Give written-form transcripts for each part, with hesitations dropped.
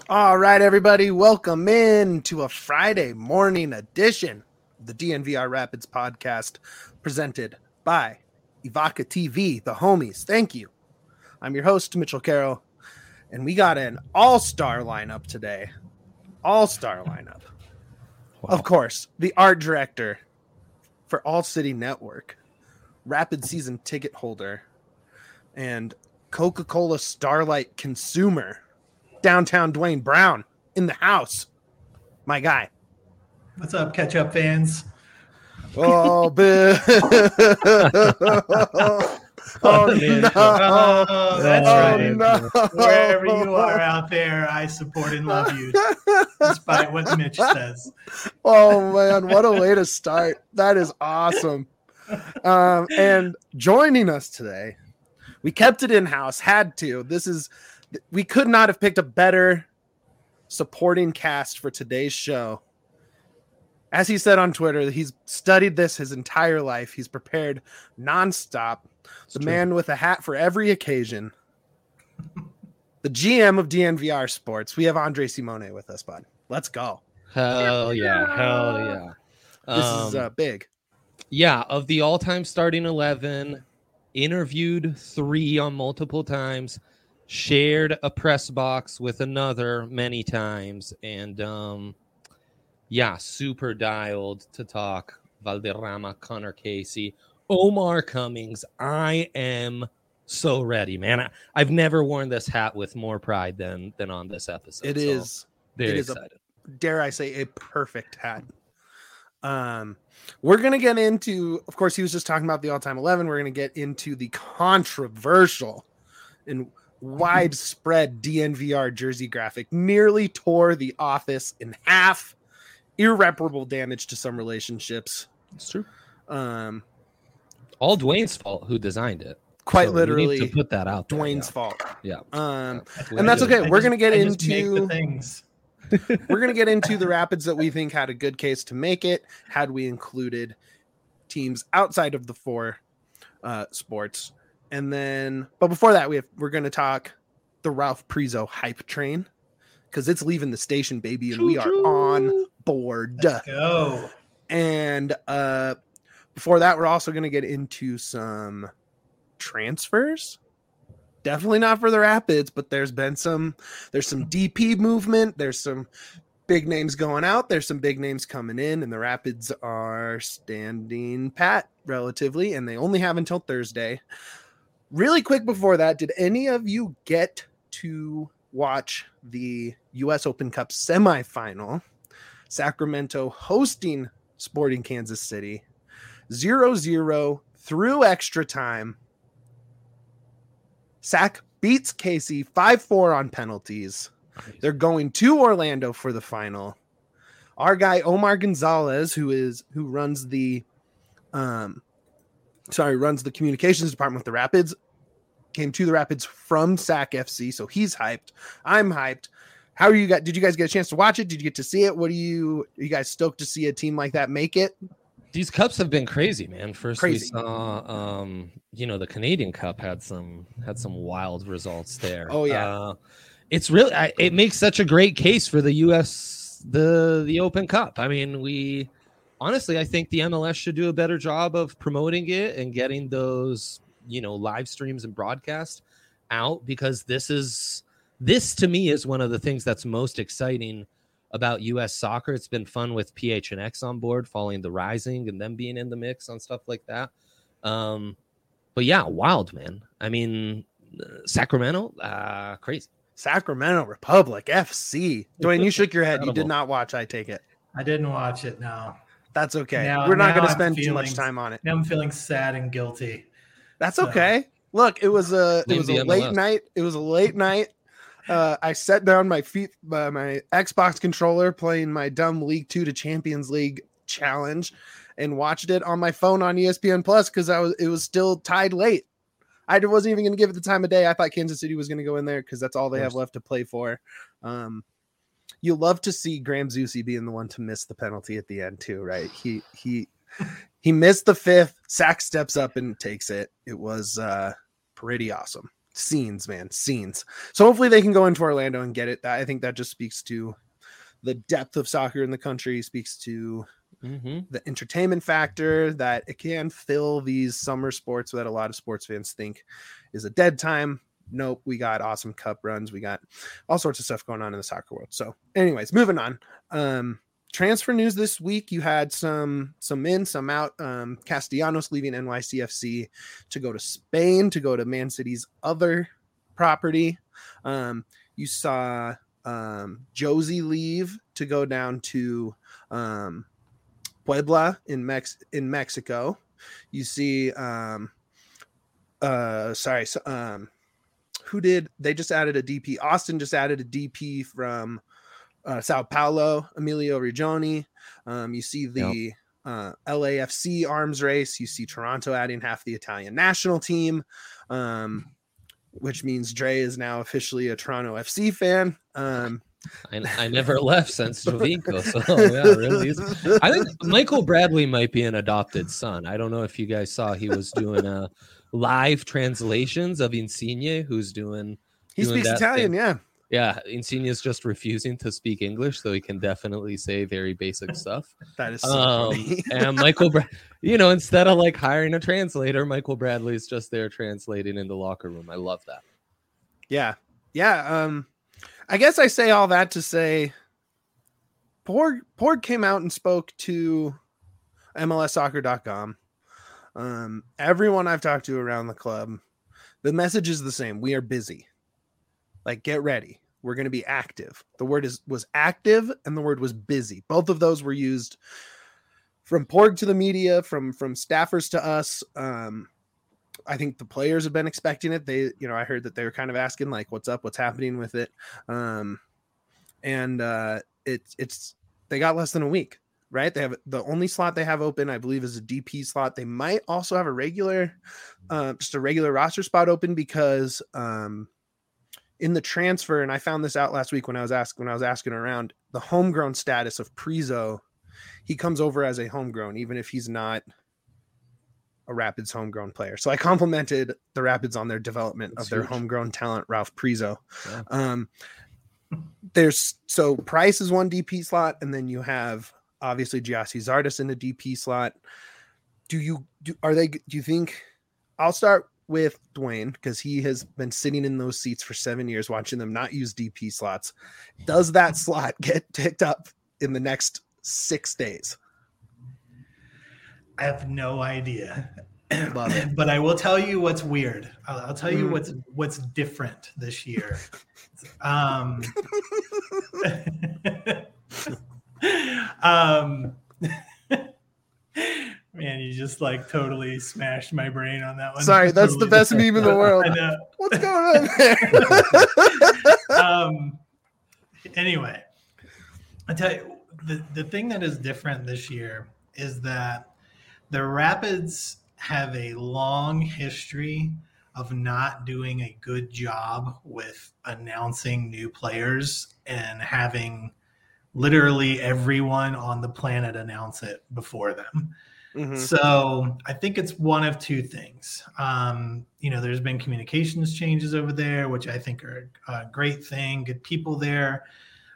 All right, everybody, welcome in to a Friday morning edition of the DNVR Rapids podcast presented by Ivaka TV, the homies. Thank you. I'm your host, Mitchell Carroll, and we got an all-star lineup today. All-star lineup. Wow. Of course, the art director for All City Network, Rapid season ticket holder, and Coca-Cola Starlight consumer, downtown Dwayne Brown in the house. My guy. What's up, catch-up fans? Oh, oh no. Oh, that's right. No. Wherever you are out there, I support and love you, despite what Mitch says. Oh, man, what a way to start. That is awesome. And joining us today, we kept it in-house, had to. We could not have picked a better supporting cast for today's show. As he said on Twitter, he's studied this his entire life. He's prepared nonstop. The man with a hat for every occasion. The GM of DNVR Sports. We have Andre Simone with us, bud. Let's go. Hell yeah. This is big. Yeah, of the all-time starting 11, interviewed 3 on multiple times, shared a press box with another many times, and super dialed to talk Valderrama, Connor Casey, Omar Cummings. I am so ready, man. I've never worn this hat with more pride than on this episode. It is very excited. Dare I say, a perfect hat. We're going to get into, of course, he was just talking about the all-time 11. We're going to get into the controversial and widespread DNVR jersey graphic. Nearly tore the office in half. Irreparable damage to some relationships. It's true. All Dwayne's fault who designed it. Quite literally. We need to put that out there. Dwayne's fault. Yeah. And that's okay. We're going to get into things. We're going to get into the Rapids that we think had a good case to make it, had we included teams outside of the 4 sports. And then, but before that, we're going to talk the Ralph Prizo hype train, because it's leaving the station, baby, and we are on board. Let's go. And before that, we're also going to get into some transfers. Definitely not for the Rapids, but there's some DP movement. There's some big names going out. There's some big names coming in, and the Rapids are standing pat relatively, and they only have until Thursday. Really quick before that, did any of you get to watch the U.S. Open Cup semifinal? Sacramento hosting Sporting Kansas City. 0-0 through extra time. Sac beats Casey 5-4 on penalties. They're going to Orlando for the final. Our guy Omar Gonzalez, who runs the communications department with the Rapids, came to the Rapids from Sac FC, so he's hyped. I'm hyped. How are you guys? Did you guys get a chance to watch it? Did you get to see it? Are you guys stoked to see a team like that make it? These cups have been crazy, man. Crazy. We saw, the Canadian Cup had some wild results there. Oh yeah, it's really it makes such a great case for the U.S. the Open Cup. I mean, I think the MLS should do a better job of promoting it and getting those live streams and broadcast out, because this to me is one of the things that's most exciting about U.S. soccer. It's been fun with PHNX on board, following the Rising and them being in the mix on stuff like that. But yeah, wild, man. I mean, Sacramento, crazy. Sacramento Republic FC. Dwayne, you shook your head. You did not watch, I take it. I didn't watch it, no. That's okay. We're not going to spend too much time on it. Now I'm feeling sad and guilty. That's okay. Look, it was a late night. It was a late night. I set down my Xbox controller, playing my dumb League 2 to Champions League challenge, and watched it on my phone on ESPN Plus, because it was still tied late. I wasn't even going to give it the time of day. I thought Kansas City was going to go in there because that's all they have left to play for. You love to see Graham Zusi being the one to miss the penalty at the end too, right? He missed the 5th. Sac steps up and takes it. It was pretty awesome. scenes, man, scenes. So hopefully they can go into Orlando and get it. I think that just speaks to the depth of soccer in the country, speaks to the entertainment factor, that it can fill these summer sports that a lot of sports fans think is a dead time. Nope, we got awesome cup runs. We got all sorts of stuff going on in the soccer world. So anyways, moving on. Transfer news this week. You had some in, some out. Castellanos leaving NYCFC to go to Spain, to go to Man City's other property. You saw Josie leave to go down to Puebla in Mexico. You see who did they just added a DP? Austin just added a DP from Sao Paulo, Emilio Regioni. You see the LAFC arms race. You see Toronto adding half the Italian national team, which means Dre is now officially a Toronto FC fan. I never left since Jovinko, so yeah, really. I think Michael Bradley might be an adopted son. I don't know if you guys saw he was doing live translations of Insigne, who's doing. He speaks Italian, thing. Yeah. Insigne is just refusing to speak English, so he can definitely say very basic stuff. That is so funny. And Michael, instead of like hiring a translator, Michael Bradley is just there translating in the locker room. I love that. Yeah. I guess I say all that to say Porg came out and spoke to MLSsoccer.com. Everyone I've talked to around the club, the message is the same. We are busy. Like, get ready. We're going to be active. The word was active and the word was busy. Both of those were used from Porg to the media, from staffers to us. I think the players have been expecting it. I heard that they were kind of asking like, what's up, what's happening with it. It's they got less than a week, right? They have the only slot they have open, I believe, is a DP slot. They might also have a regular roster spot open because in the transfer, and I found this out last week when I was asking around, the homegrown status of Priso, he comes over as a homegrown, even if he's not a Rapids homegrown player. So I complimented the Rapids on their development of their homegrown talent, Ralph Priso. Yeah. So Price is one DP slot, and then you have obviously Giassi Zardes in the DP slot. Do you think I'll start with Dwayne, because he has been sitting in those seats for 7 years watching them not use DP slots. Does that slot get picked up in the next 6 days? I have no idea. But I will tell you what's weird. I'll tell you what's different this year. Man, you just like totally smashed my brain on that one. Sorry, that's totally the best meme in the world. I know. What's going on there? Anyway, I tell you, the thing that is different this year is that the Rapids have a long history of not doing a good job with announcing new players and having literally everyone on the planet announce it before them. Mm-hmm. So I think it's one of two things. There's been communications changes over there, which I think are a great thing, good people there.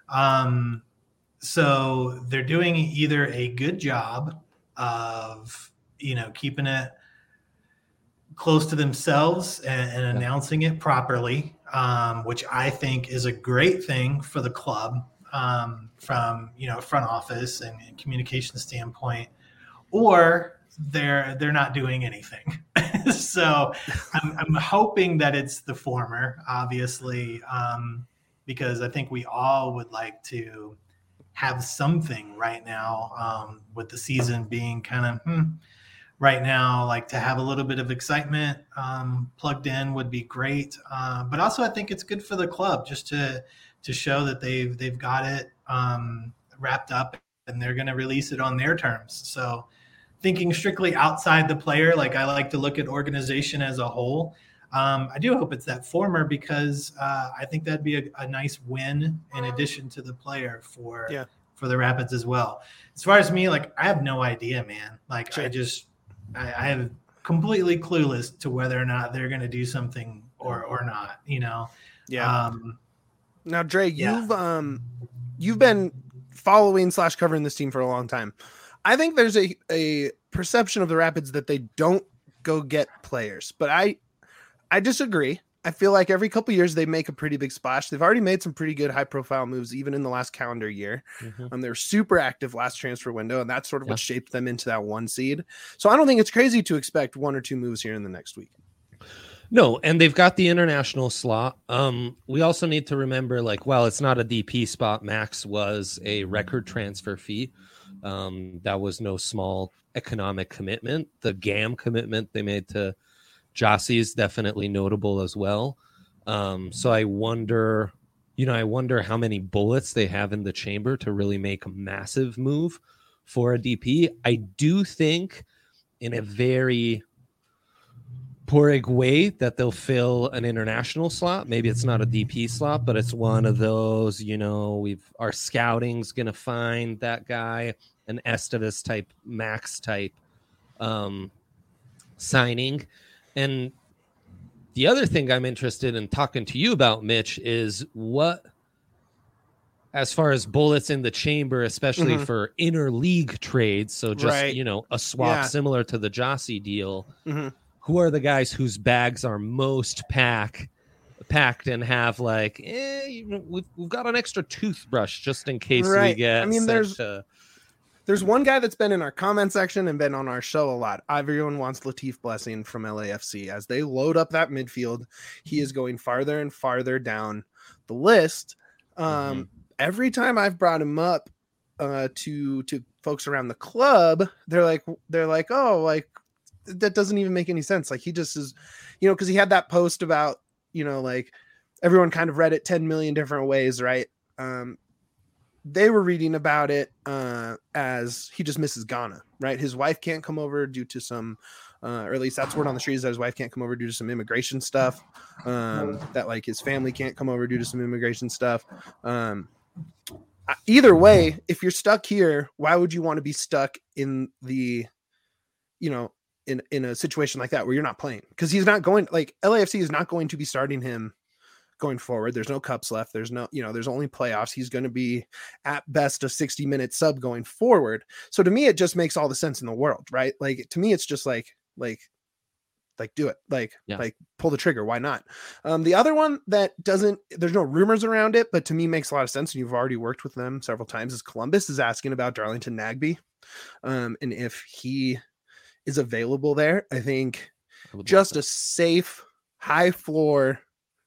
So they're doing either a good job of, keeping it close to themselves and announcing it properly, which I think is a great thing for the club from, front office and communication standpoint, or they're not doing anything. So I'm hoping that it's the former, obviously, because I think we all would like to have something right now, with the season being kind of right now, like to have a little bit of excitement plugged in would be great. But also I think it's good for the club just to show that they've got it wrapped up and they're going to release it on their terms. So thinking strictly outside the player, like I like to look at organization as a whole. I do hope it's that former because I think that'd be a nice win in addition to the player for the Rapids as well. As far as me, like I have no idea, man. Like sure. I have completely clueless to whether or not they're going to do something or not, you know? Yeah. Now, Dre, Yeah. you've been following / covering this team for a long time. I think there's a perception of the Rapids that they don't go get players, but I disagree. I feel like every couple years they make a pretty big splash. They've already made some pretty good high profile moves, even in the last calendar year. They were super active last transfer window, and that's sort of what shaped them into that 1 seed. So I don't think it's crazy to expect 1 or 2 moves here in the next week. No, and they've got the international slot. We also need to remember, like, while it's not a DP spot, Max was a record transfer fee. That was no small economic commitment. The GAM commitment they made to Jossie is definitely notable as well. So I wonder how many bullets they have in the chamber to really make a massive move for a DP. I do think in a very Porig way that they'll fill an international slot. Maybe it's not a DP slot, but it's one of those, our scouting's going to find that guy, an Estevez type, Max type signing. And the other thing I'm interested in talking to you about, Mitch, is what, as far as bullets in the chamber, especially for interleague trades. So just, a swap similar to the Jossie deal. Who are the guys whose bags are most packed and have like, we've got an extra toothbrush just in case we get. I mean, there's one guy that's been in our comment section and been on our show a lot. Everyone wants Latif Blessing from LAFC. As they load up that midfield, he is going farther and farther down the list. Every time I've brought him up to folks around the club, they're like, oh, like, that doesn't even make any sense. Like, he just is, because he had that post about, like, everyone kind of read it 10 million different ways, right? They were reading about it as he just misses Ghana, right? His wife can't come over due to some, or at least that's word on the streets, that his wife can't come over due to some immigration stuff, that like his family can't come over due to some immigration stuff. Either way, if you're stuck here, why would you want to be stuck in the, in a situation like that where you're not playing? Because he's not going, like, LAFC is not going to be starting him going forward. There's no cups left. There's no, there's only playoffs. He's going to be at best a 60-minute sub going forward. So to me, it just makes all the sense in the world, right? Like, to me, it's just like do it, like pull the trigger. Why not? The other one that doesn't, there's no rumors around it, but to me makes a lot of sense, and you've already worked with them several times, is Columbus is asking about Darlington Nagbe. And if he is available there, I think just a safe, high floor,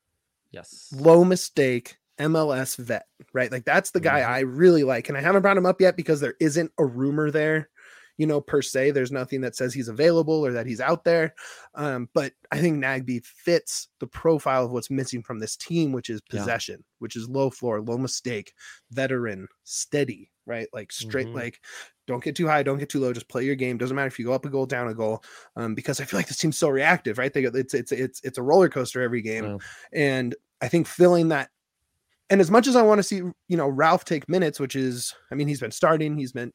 low mistake MLS vet, right? Like, that's the guy I really like, and I haven't brought him up yet because there isn't a rumor there, per se. There's nothing that says he's available or that he's out there. But I think Nagbe fits the profile of what's missing from this team, which is possession, which is low floor, low mistake, veteran, steady, right? Like, straight, like, don't get too high, don't get too low, just play your game. Doesn't matter if you go up a goal, down a goal, because I feel like this team's so reactive, right? It's a roller coaster every game. And I think filling that, and as much as I want to see, Ralph take minutes, which is, I mean, he's been starting, he's been,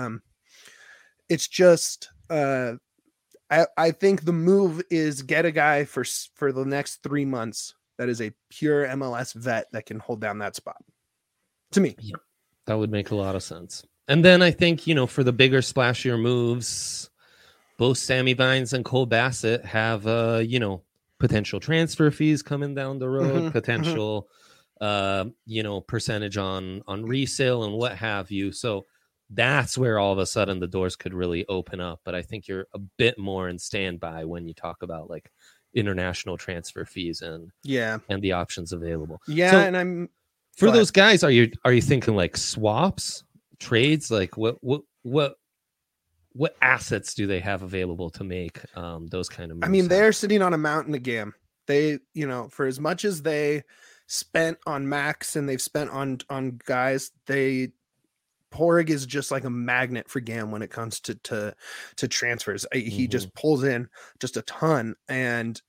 it's just, I think the move is get a guy for the next 3 months that is a pure MLS vet that can hold down that spot. To me, that would make a lot of sense. And then I think, for the bigger, splashier moves, both Sammy Vines and Cole Bassett have, potential transfer fees coming down the road, potential, percentage on resale and what have you. So that's where all of a sudden the doors could really open up. But I think you're a bit more in standby when you talk about like international transfer fees and the options available. Yeah, so and I'm for those guys. Are you thinking like swaps, trades? Like what assets do they have available to make those kind of moves? I mean, they're sitting on a mountain of GAM. They, for as much as they spent on Max and they've spent on guys, Porig is just like a magnet for GAM when it comes to transfers. He just pulls in just a ton, and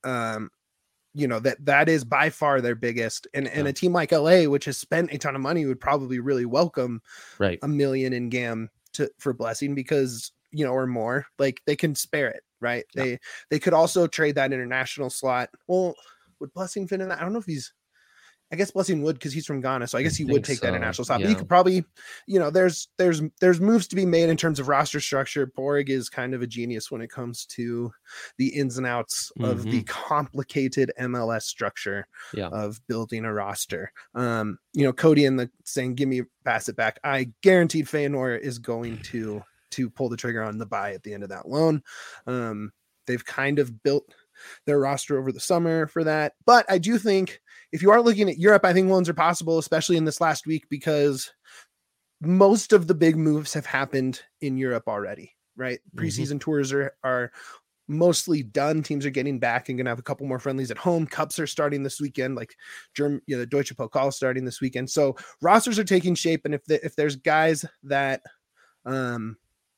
that is by far their biggest. And a team like LA, which has spent a ton of money, would probably really welcome $1 million in GAM for Blessing, because or more, like, they can spare it, right? They could also trade that international slot. Well, would Blessing fit in that? I don't know if I guess Blessing would, because he's from Ghana, so I guess he would think take that so, international spot. yeah. But he could probably, there's moves to be made in terms of roster structure. Borg is kind of a genius when it comes to the ins and outs of the complicated MLS structure of building a roster. Cody saying, "Give me, pass it back." I guaranteed Feyenoord is going to pull the trigger on the buy at the end of that loan. They've kind of built their roster over the summer for that, but I do think, if you are looking at Europe, I think loans are possible, especially in this last week, because most of the big moves have happened in Europe already, right? Preseason tours are mostly done. Teams are getting back and going to have a couple more friendlies at home. Cups are starting this weekend, like the Deutsche Pokal starting this weekend. So rosters are taking shape. And if there's guys that, are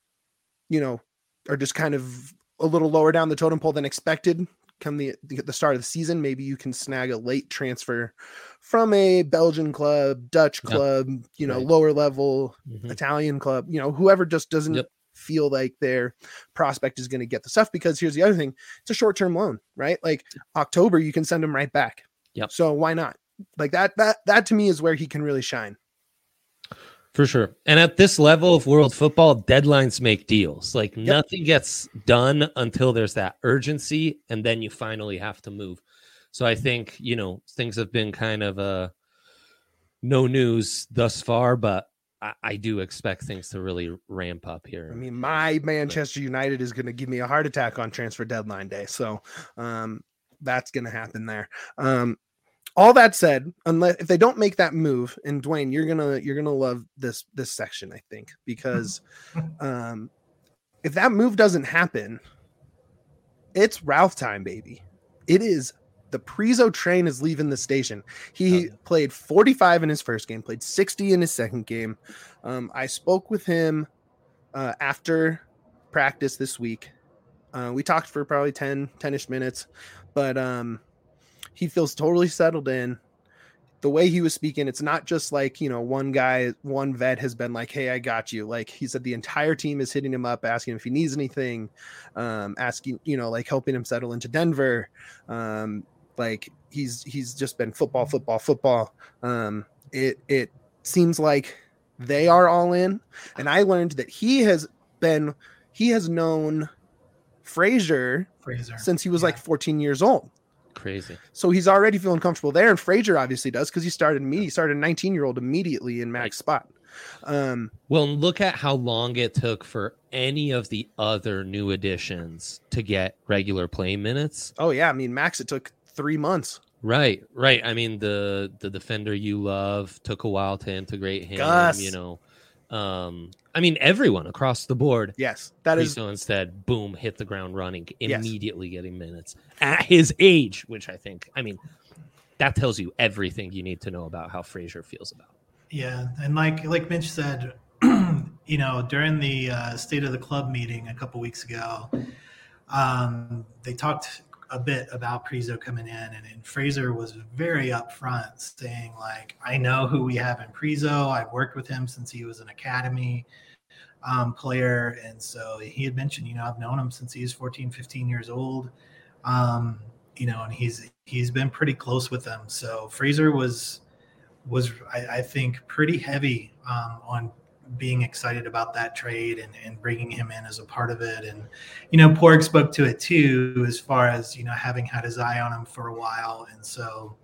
just kind of a little lower down the totem pole than expected, come the start of the season, maybe you can snag a late transfer from a Belgian club, Dutch club, lower level Italian club, whoever just doesn't feel like their prospect is going to get the stuff. Because here's the other thing, it's a short-term loan, right? Like October, you can send him right back. So why not? Like that to me is where he can really shine. For sure. And at this level of world football, deadlines make deals. Like nothing gets done until there's that urgency, and then you finally have to move. So I think, things have been kind of no news thus far, but I do expect things to really ramp up here. I mean, my Manchester United is going to give me a heart attack on transfer deadline day. So that's going to happen there. All that said, if they don't make that move, and Dwayne, you're gonna love this section, I think, because if that move doesn't happen, it's Ralph time, baby. It is. The Priso train is leaving the station. He played 45 in his first game, played 60 in his second game. I spoke with him after practice this week. We talked for probably 10-ish minutes, but he feels totally settled in. The way he was speaking, it's not just like, one vet has been like, "Hey, I got you." Like he said, the entire team is hitting him up, asking if he needs anything, asking, helping him settle into Denver. Like he's just been football. It seems like they are all in. And I learned that he has known Fraser since he was like 14 years old. Crazy. So he's already feeling comfortable there, and Fraser obviously does, because he started a 19-year-old immediately in Mac's spot. Well, look at how long it took for any of the other new additions to get regular playing minutes. Oh yeah, I mean Max, it took 3 months. Right. I mean the defender you love took a while to integrate him. Gus. I mean, everyone across the board. Yes, that is. So instead, boom, hit the ground running, immediately getting minutes at his age, which that tells you everything you need to know about how Fraser feels about it. Yeah, and like Mitch said, during the State of the Club meeting a couple weeks ago, they talked a bit about Priso coming in, and Fraser was very upfront, saying like, "I know who we have in Priso. I've worked with him since he was an academy player." And so he had mentioned, I've known him since he was 14, 15 years old. And he's been pretty close with them. So Fraser was I think pretty heavy on being excited about that trade and bringing him in as a part of it. And, Porg spoke to it too, as far as, having had his eye on him for a while. And so,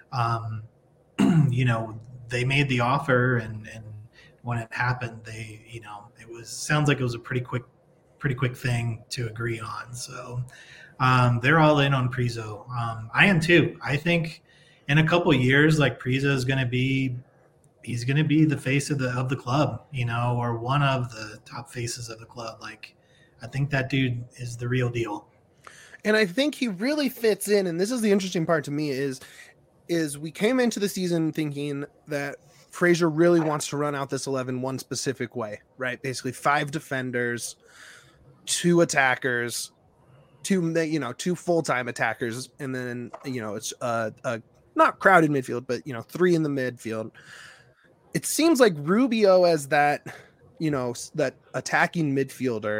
they made the offer, and when it happened, sounds like it was a pretty quick thing to agree on. So they're all in on Priso. I am too. I think in a couple of years, like Priso is going to be, he's going to be the face of the club, or one of the top faces of the club. Like, I think that dude is the real deal. And I think he really fits in. And this is the interesting part to me is we came into the season thinking that Fraser really wants to run out this 11 one specific way, right? Basically 5 defenders, 2 attackers, 2 full-time attackers. And then, it's not crowded midfield, but 3 in the midfield. It seems like Rubio as that, that attacking midfielder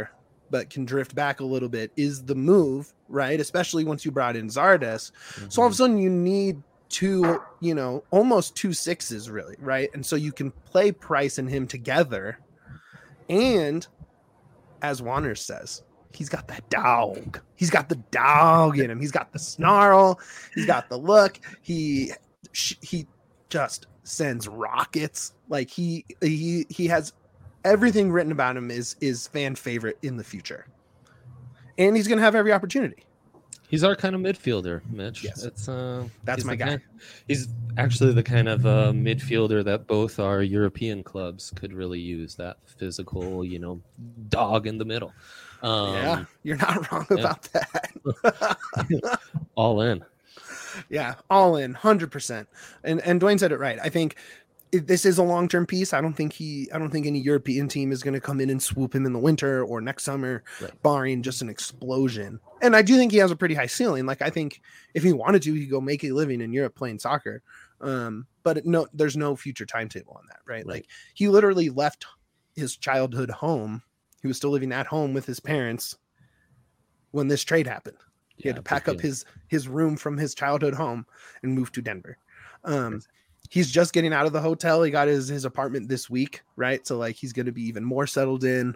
but can drift back a little bit is the move, right? Especially once you brought in Zardes. So all of a sudden you need two, almost 2 6s really, right? And so you can play Price and him together. And as Warner says, he's got that dog. He's got the dog in him. He's got the snarl. He's got the look. He just sends rockets. Like he has everything written about him is fan favorite in the future, and he's gonna have every opportunity. He's our kind of midfielder, Mitch. Yes. That's my guy. He's actually the kind of midfielder that both our European clubs could really use. That physical, dog in the middle. Yeah, you're not wrong about that. All in. Yeah, all in, 100%. And Dwayne said it right. I think this is a long-term piece. I don't think any European team is going to come in and swoop him in the winter or next summer, right, barring just an explosion. And I do think he has a pretty high ceiling. Like, I think if he wanted to, he'd go make a living in Europe playing soccer. But no, there's no future timetable on that, right? Like, he literally left his childhood home. He was still living at home with his parents when this trade happened. He had to pack up his room from his childhood home and move to Denver. He's just getting out of the hotel. He got his apartment this week, right? So like he's going to be even more settled in.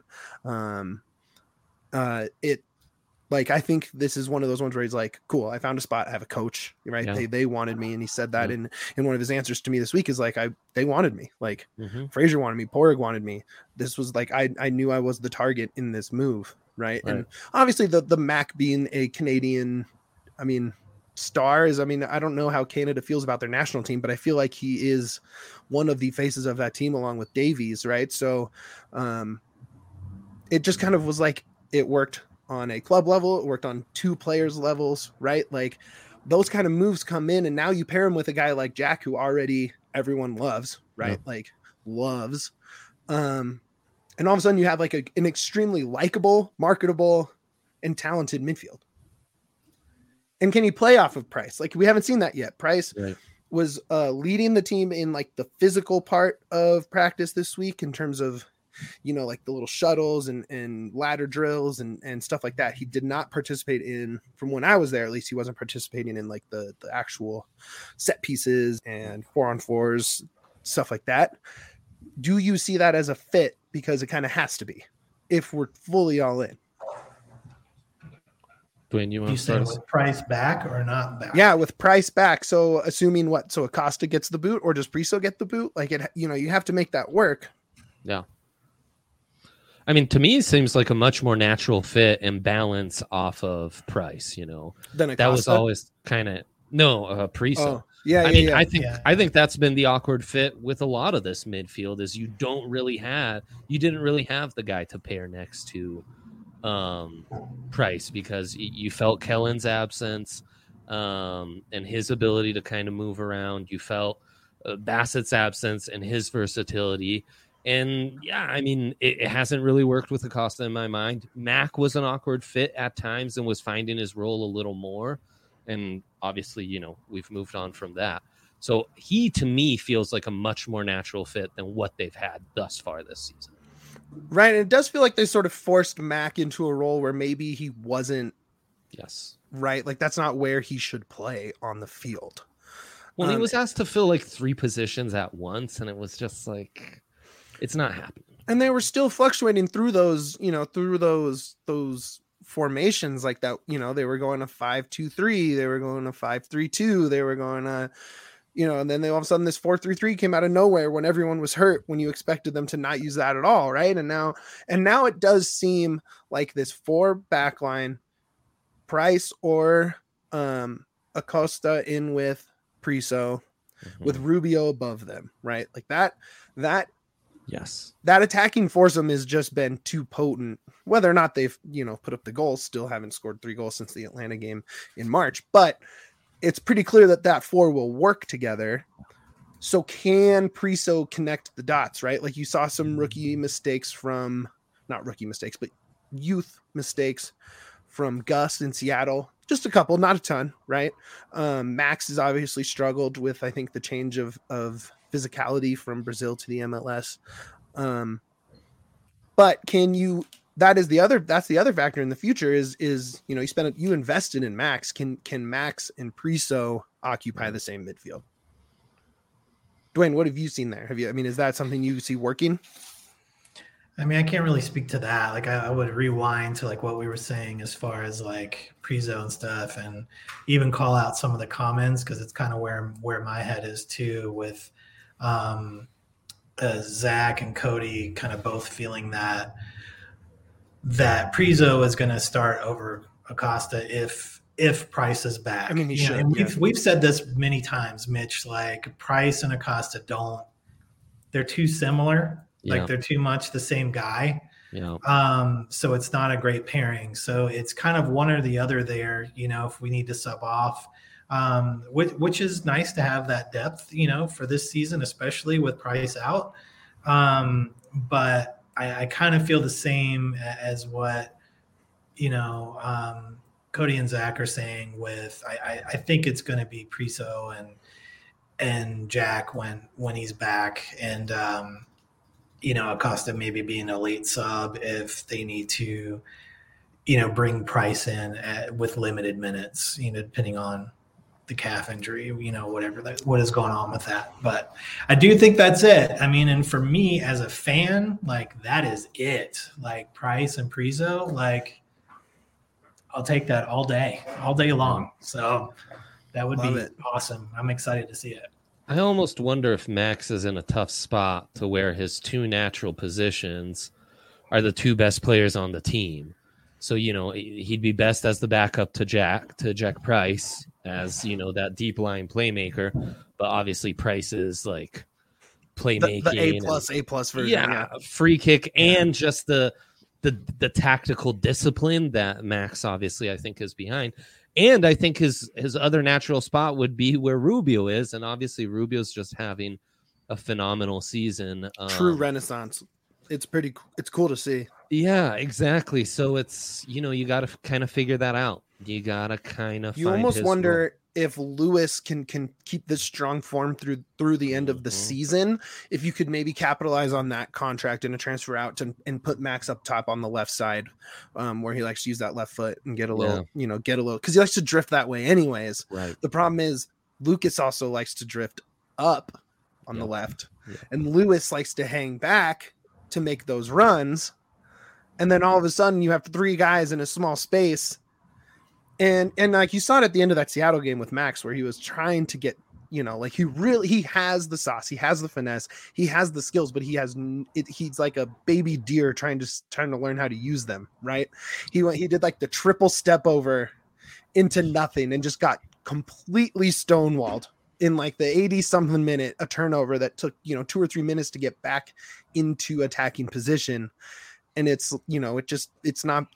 I think this is one of those ones where he's like, cool, I found a spot. I have a coach, right? Yeah. They wanted me. And he said that in one of his answers to me this week is like, they wanted me. Like Fraser wanted me. Porig wanted me. This was like, I knew I was the target in this move. Right. And obviously the Mac being a Canadian, star is, I don't know how Canada feels about their national team, but I feel like he is one of the faces of that team along with Davies. Right. So it just kind of was like, it worked on a club level. It worked on 2 players levels, right? Like those kind of moves come in and now you pair him with a guy like Jack, who already everyone loves, right? Yeah. Like loves, and all of a sudden you have like an extremely likable, marketable, and talented midfield. And can he play off of Price? Like we haven't seen that yet. Price was leading the team in like the physical part of practice this week in terms of, like the little shuttles and ladder drills and stuff like that. He did not participate in, from when I was there, at least he wasn't participating in like the actual set pieces and 4-on-4s, stuff like that. Do you see that as a fit? Because it kind of has to be if we're fully all in. Dwayne, you want to start with Price back or not back? Yeah, with Price back. So assuming what? So Acosta gets the boot or does Priso get the boot? Like it, you have to make that work. Yeah. To me, it seems like a much more natural fit and balance off of Price, Than Acosta? That was always kind of Priso. Oh. Yeah, I think that's been the awkward fit with a lot of this midfield is you didn't really have the guy to pair next to Price because you felt Kellen's absence and his ability to kind of move around. You felt Bassett's absence and his versatility. And it hasn't really worked with Acosta in my mind. Mac was an awkward fit at times and was finding his role a little more. And obviously, we've moved on from that. So he, to me, feels like a much more natural fit than what they've had thus far this season. Right. And it does feel like they sort of forced Mac into a role where maybe he wasn't. Yes. Right. Like that's not where he should play on the field. Well, he was asked to fill like 3 positions at once. And it was just like, it's not happening. And they were still fluctuating through those, those formations like that. They were going to 5-2-3, they were going to 5-3-2, they were going to, and then all of a sudden this 4-3-3 came out of nowhere when everyone was hurt, when you expected them to not use that at all, right? And now it does seem like this 4 backline, Price or Acosta in with Priso, with Rubio above them, right? Like that. Yes, that attacking foursome has just been too potent. Whether or not they've, put up the goals, still haven't scored 3 goals since the Atlanta game in March, but it's pretty clear that 4 will work together. So can Priso connect the dots, right? Like you saw some rookie mistakes not rookie mistakes, but youth mistakes from Gus in Seattle. Just a couple, not a ton, right? Max has obviously struggled with, I think, the change of physicality from Brazil to the MLS. But can you that's the other factor in the future is you invested in Max. Can Max and Priso occupy the same midfield? Dwayne, what have you seen there? Is that something you see working? I mean, I can't really speak to that. Like, I would rewind to like what we were saying as far as like Priso and stuff, and even call out some of the comments, because it's kind of where my head is too, with Zach and Cody kind of both feeling that Priso is going to start over Acosta if Price is back. I mean, he should. And we've said this many times, Mitch. Like, Price and Acosta they're too similar. Like, they're too much the same guy. Yeah. So it's not a great pairing. So it's kind of one or the other there, if we need to sub off, which is nice to have that depth, for this season, especially with Price out. But I kind of feel the same as what, Cody and Zach are saying with, I think it's going to be Priso and Jack when he's back, and, Acosta maybe being a late sub if they need to, bring Price in with limited minutes, depending on the calf injury, what is going on with that. But I do think that's it. I mean, and for me as a fan, like, that is it. Like, Price and Priso, like, I'll take that all day long. So that would be awesome. I'm excited to see it. I almost wonder if Max is in a tough spot to where his two natural positions are the two best players on the team. So, he'd be best as the backup to Jack Price, as, that deep line playmaker. But obviously Price is like playmaking. The A+ version. Yeah, free kick and just the tactical discipline that Max obviously I think is behind. And I think his other natural spot would be where Rubio is. And obviously Rubio's just having a phenomenal season. True renaissance. It's cool to see. Yeah, exactly. So it's, you got to kind of figure that out. You got to kind of, you almost wonder if Lewis can keep this strong form through the end of the season, if you could maybe capitalize on that contract in a transfer out and put Max up top on the left side, where he likes to use that left foot and get a little, because he likes to drift that way anyways. Right. The problem is Lucas also likes to drift up on the left, and Lewis likes to hang back to make those runs. And then all of a sudden you have three guys in a small space. And like you saw it at the end of that Seattle game with Max, where he was trying to get, he has the sauce, he has the finesse, he has the skills, but he's like a baby deer trying to learn how to use them. Right. He did like the triple step over into nothing and just got completely stonewalled in like the 80 something minute, a turnover that took, 2 or 3 minutes to get back into attacking position. And it's not,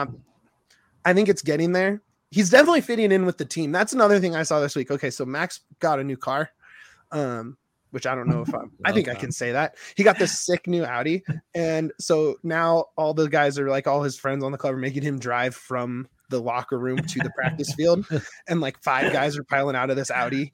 I think it's getting there. He's definitely fitting in with the team. That's another thing I saw this week. Okay, so Max got a new car, which I don't know if I think I can say that. He got this sick new Audi. And so now all the guys are like, all his friends on the club are making him drive from the locker room to the practice field. And like 5 guys are piling out of this Audi.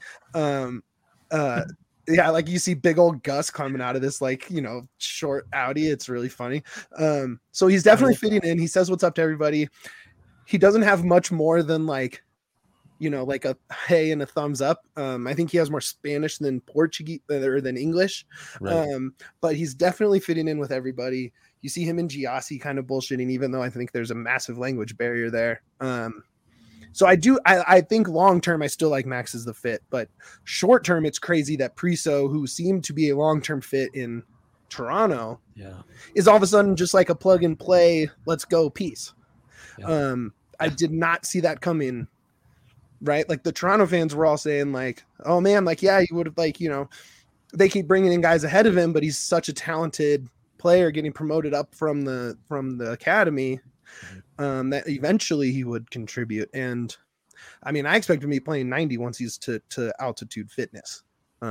Yeah, like you see big old Gus coming out of this, like, short Audi. It's really funny. So he's definitely fitting in. He says what's up to everybody. He doesn't have much more than like a hey and a thumbs up. I think he has more Spanish than Portuguese or than English. Right. But he's definitely fitting in with everybody. You see him and Giassi kind of bullshitting, even though I think there's a massive language barrier there. So I think long-term, I still like Max as the fit, but short-term, it's crazy that Priso, who seemed to be a long-term fit in Toronto, is all of a sudden just like a plug and play, let's go piece. Yeah. I did not see that coming, right? Like the Toronto fans were all saying like, oh man, like, yeah, you would have like, they keep bringing in guys ahead of him, but he's such a talented player getting promoted up from the academy. That eventually he would contribute. And I mean, I expect him to be playing 90 once he's to altitude fitness.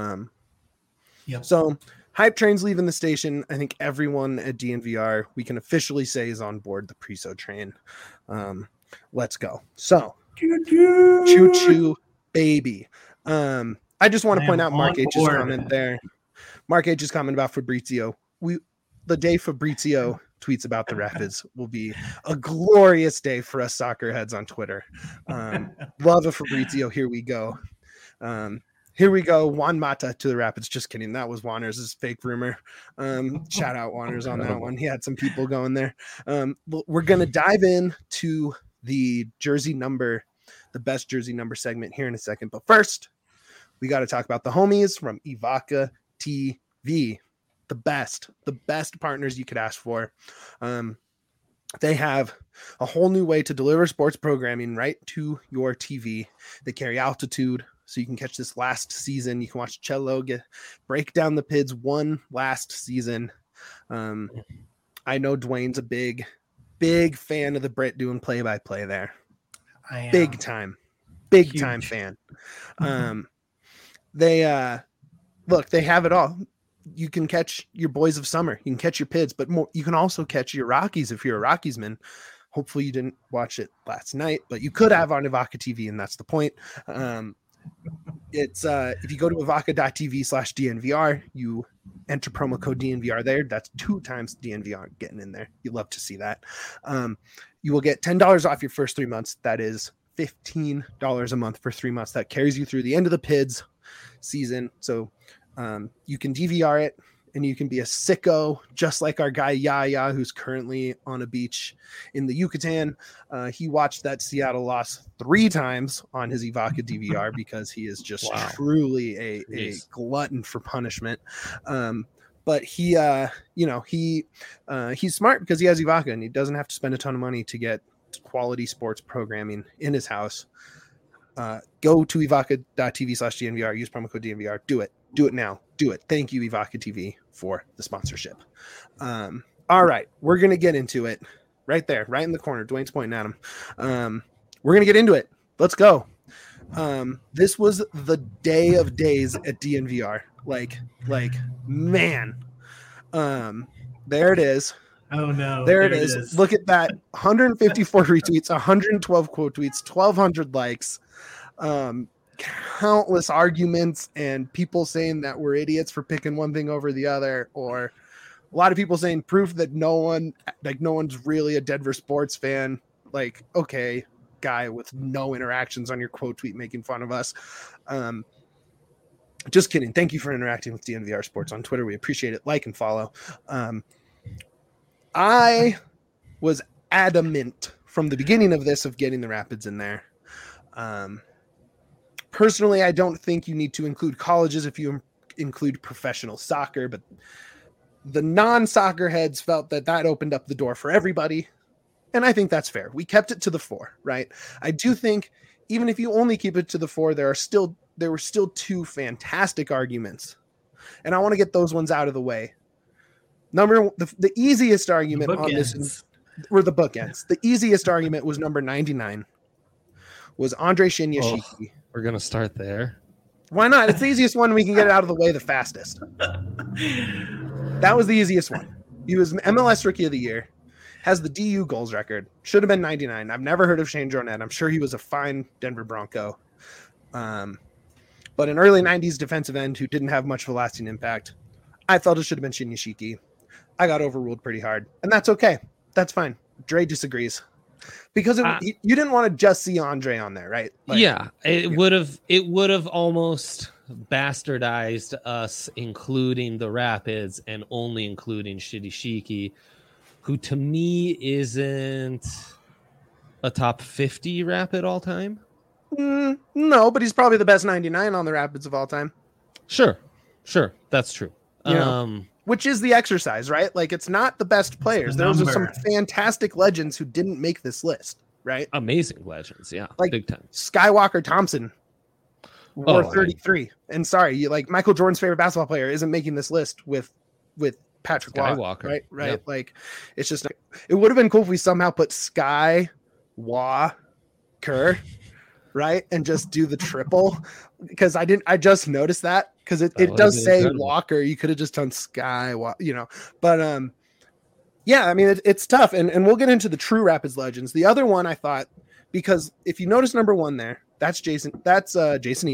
So hype train's leaving the station. I think everyone at DNVR, we can officially say, is on board the Priso train. Let's go. So choo-choo baby. I just want to point out Mark H's comment there. Mark H's comment about Fabrizio. the day Fabrizio tweets about the Rapids will be a glorious day for us soccer heads on Twitter. Love of Fabrizio. Here we go. Juan Mata to the Rapids. Just kidding. That was Wanners' fake rumor. Shout out Wanners on that one. He had some people going there. We're going to dive in to the best jersey number segment here in a second. But first, we got to talk about the homies from Evoca TV. The best partners you could ask for. They have a whole new way to deliver sports programming right to your TV. They carry altitude, so you can catch this last season. You can watch Cello break down the PIDs one last season. I know Dwayne's a big fan of the Brit doing play-by-play there. I am. Big time fan. They have it all. You can catch your boys of summer. You can catch your PIDs, but you can also catch your Rockies if you're a Rockies man. Hopefully you didn't watch it last night, but you could have on Evoca TV, and that's the point. It's if you go to evoca.tv/DNVR, you enter promo code DNVR there. That's 2 times DNVR getting in there. You love to see that. You will get $10 off your first 3 months. That is $15 a month for 3 months. That carries you through the end of the PIDs season. So you can DVR it, and you can be a sicko, just like our guy Yaya, who's currently on a beach in the Yucatan. He watched that Seattle loss 3 times on his Evoca DVR because he is just truly a glutton for punishment. But he, he's smart because he has Evoca, and he doesn't have to spend a ton of money to get quality sports programming in his house. Go to evoca.tv/DNVR, use promo code DNVR. Do it now. Do it. Thank you, Evoca TV, for the sponsorship. All right. We're going to get into it right there, right in the corner. Dwayne's pointing at him. We're going to get into it. Let's go. This was the day of days at DNVR. Like, man. There it is. Oh, no. There it is. Look at that. 154 retweets, 112 quote tweets, 1,200 likes. Countless arguments and people saying that we're idiots for picking one thing over the other, or a lot of people saying proof that no one's really a Denver sports fan. Like, okay, guy with no interactions on your quote tweet making fun of us. Just kidding. Thank you for interacting with DNVR Sports on Twitter. We appreciate it. Like and follow. I was adamant from the beginning of this of getting the Rapids in there. Personally, I don't think you need to include colleges if you include professional soccer, but the non-soccer heads felt that opened up the door for everybody, and I think that's fair. We kept it to the 4, right? I do think even if you only keep it to the 4, there were still 2 fantastic arguments, and I want to get those ones out of the way. The easiest argument on this were the bookends. The easiest argument was number 99, was Andre Shinyashiki. We're going to start there. Why not? It's the easiest one. We can get it out of the way the fastest. That was the easiest one. He was MLS Rookie of the Year, has the DU goals record, should have been 99. I've never heard of Shane Jornet. I'm sure he was a fine Denver Bronco. But an early 90s defensive end who didn't have much of a lasting impact. I felt it should have been Shinyashiki. I got overruled pretty hard, and that's okay. That's fine. Dre disagrees. Because you didn't want to just see Andre on there, right? It would have almost bastardized us including the Rapids and only including Shinyashiki, who to me isn't a top 50 Rapid all time. No, but he's probably the best 99 on the Rapids of all time. Sure, that's true. Which is the exercise, right? Like, it's not the best players. Those are some fantastic legends who didn't make this list, right? Amazing legends, yeah, like big time. Skywalker Thompson wore 33. And sorry, Michael Jordan's favorite basketball player isn't making this list with Patrick Skywalker, Waugh, right? Yeah. Like, it's just it would have been cool if we somehow put Sky, Waugh, Kerr, right, and just do the triple, because I just noticed that. Because it does say incredible. Walker. You could have just done Sky, But yeah, I mean, it's tough. And we'll get into the true Rapids legends. The other one I thought, because if you notice number 1 there, that's Jason Elam.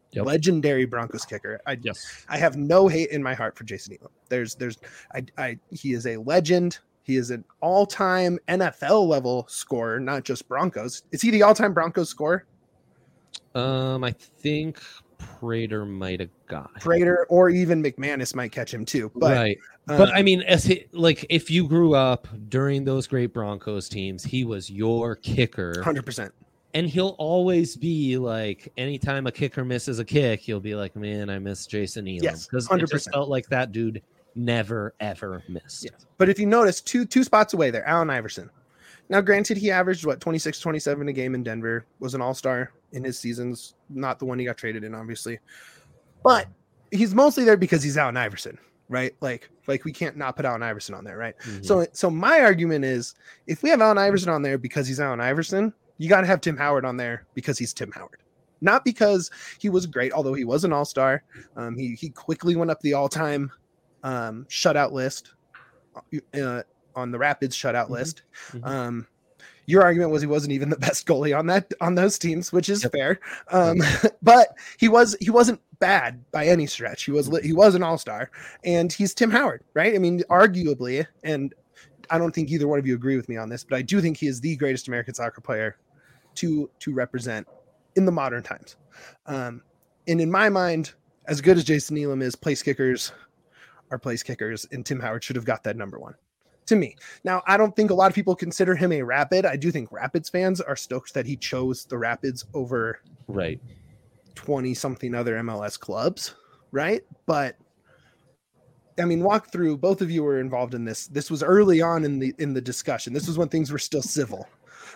Yep. Legendary Broncos kicker. Yes. I have no hate in my heart for Jason Elam. He is a legend. He is an all-time NFL level scorer, not just Broncos. Is he the all-time Broncos scorer? I think Prater might have got him. Prater or even McManus might catch him too. But, right. But I mean, if you grew up during those great Broncos teams, he was your kicker. 100%. And he'll always be like, anytime a kicker misses a kick, he'll be like, man, I miss Jason Elam. Yes, because 100%. it just felt like that dude never, ever missed. Yes. But if you notice, two spots away there, Allen Iverson. Now, granted, he averaged, 26, 27 a game in Denver, was an all-star in his seasons, not the one he got traded in, obviously. But he's mostly there because he's Allen Iverson, right? Like we can't not put Allen Iverson on there, right? Mm-hmm. So my argument is, if we have Allen Iverson on there because he's Allen Iverson, you got to have Tim Howard on there because he's Tim Howard. Not because he was great, although he was an all-star. He quickly went up the all-time shutout list on the Rapids shutout list. Mm-hmm. Your argument was he wasn't even the best goalie on those teams, which is fair. But he wasn't bad by any stretch. He was an all-star, and he's Tim Howard, right? I mean, arguably, and I don't think either one of you agree with me on this, but I do think he is the greatest American soccer player to represent in the modern times. And in my mind, as good as Jason Elam is, place kickers are place kickers, and Tim Howard should have got that number one. To me. Now, I don't think a lot of people consider him a Rapid. I do think Rapids fans are stoked that he chose the Rapids over 20-something other MLS clubs, right? But I mean, walk through. Both of you were involved in this. This was early on in the discussion. This was when things were still civil.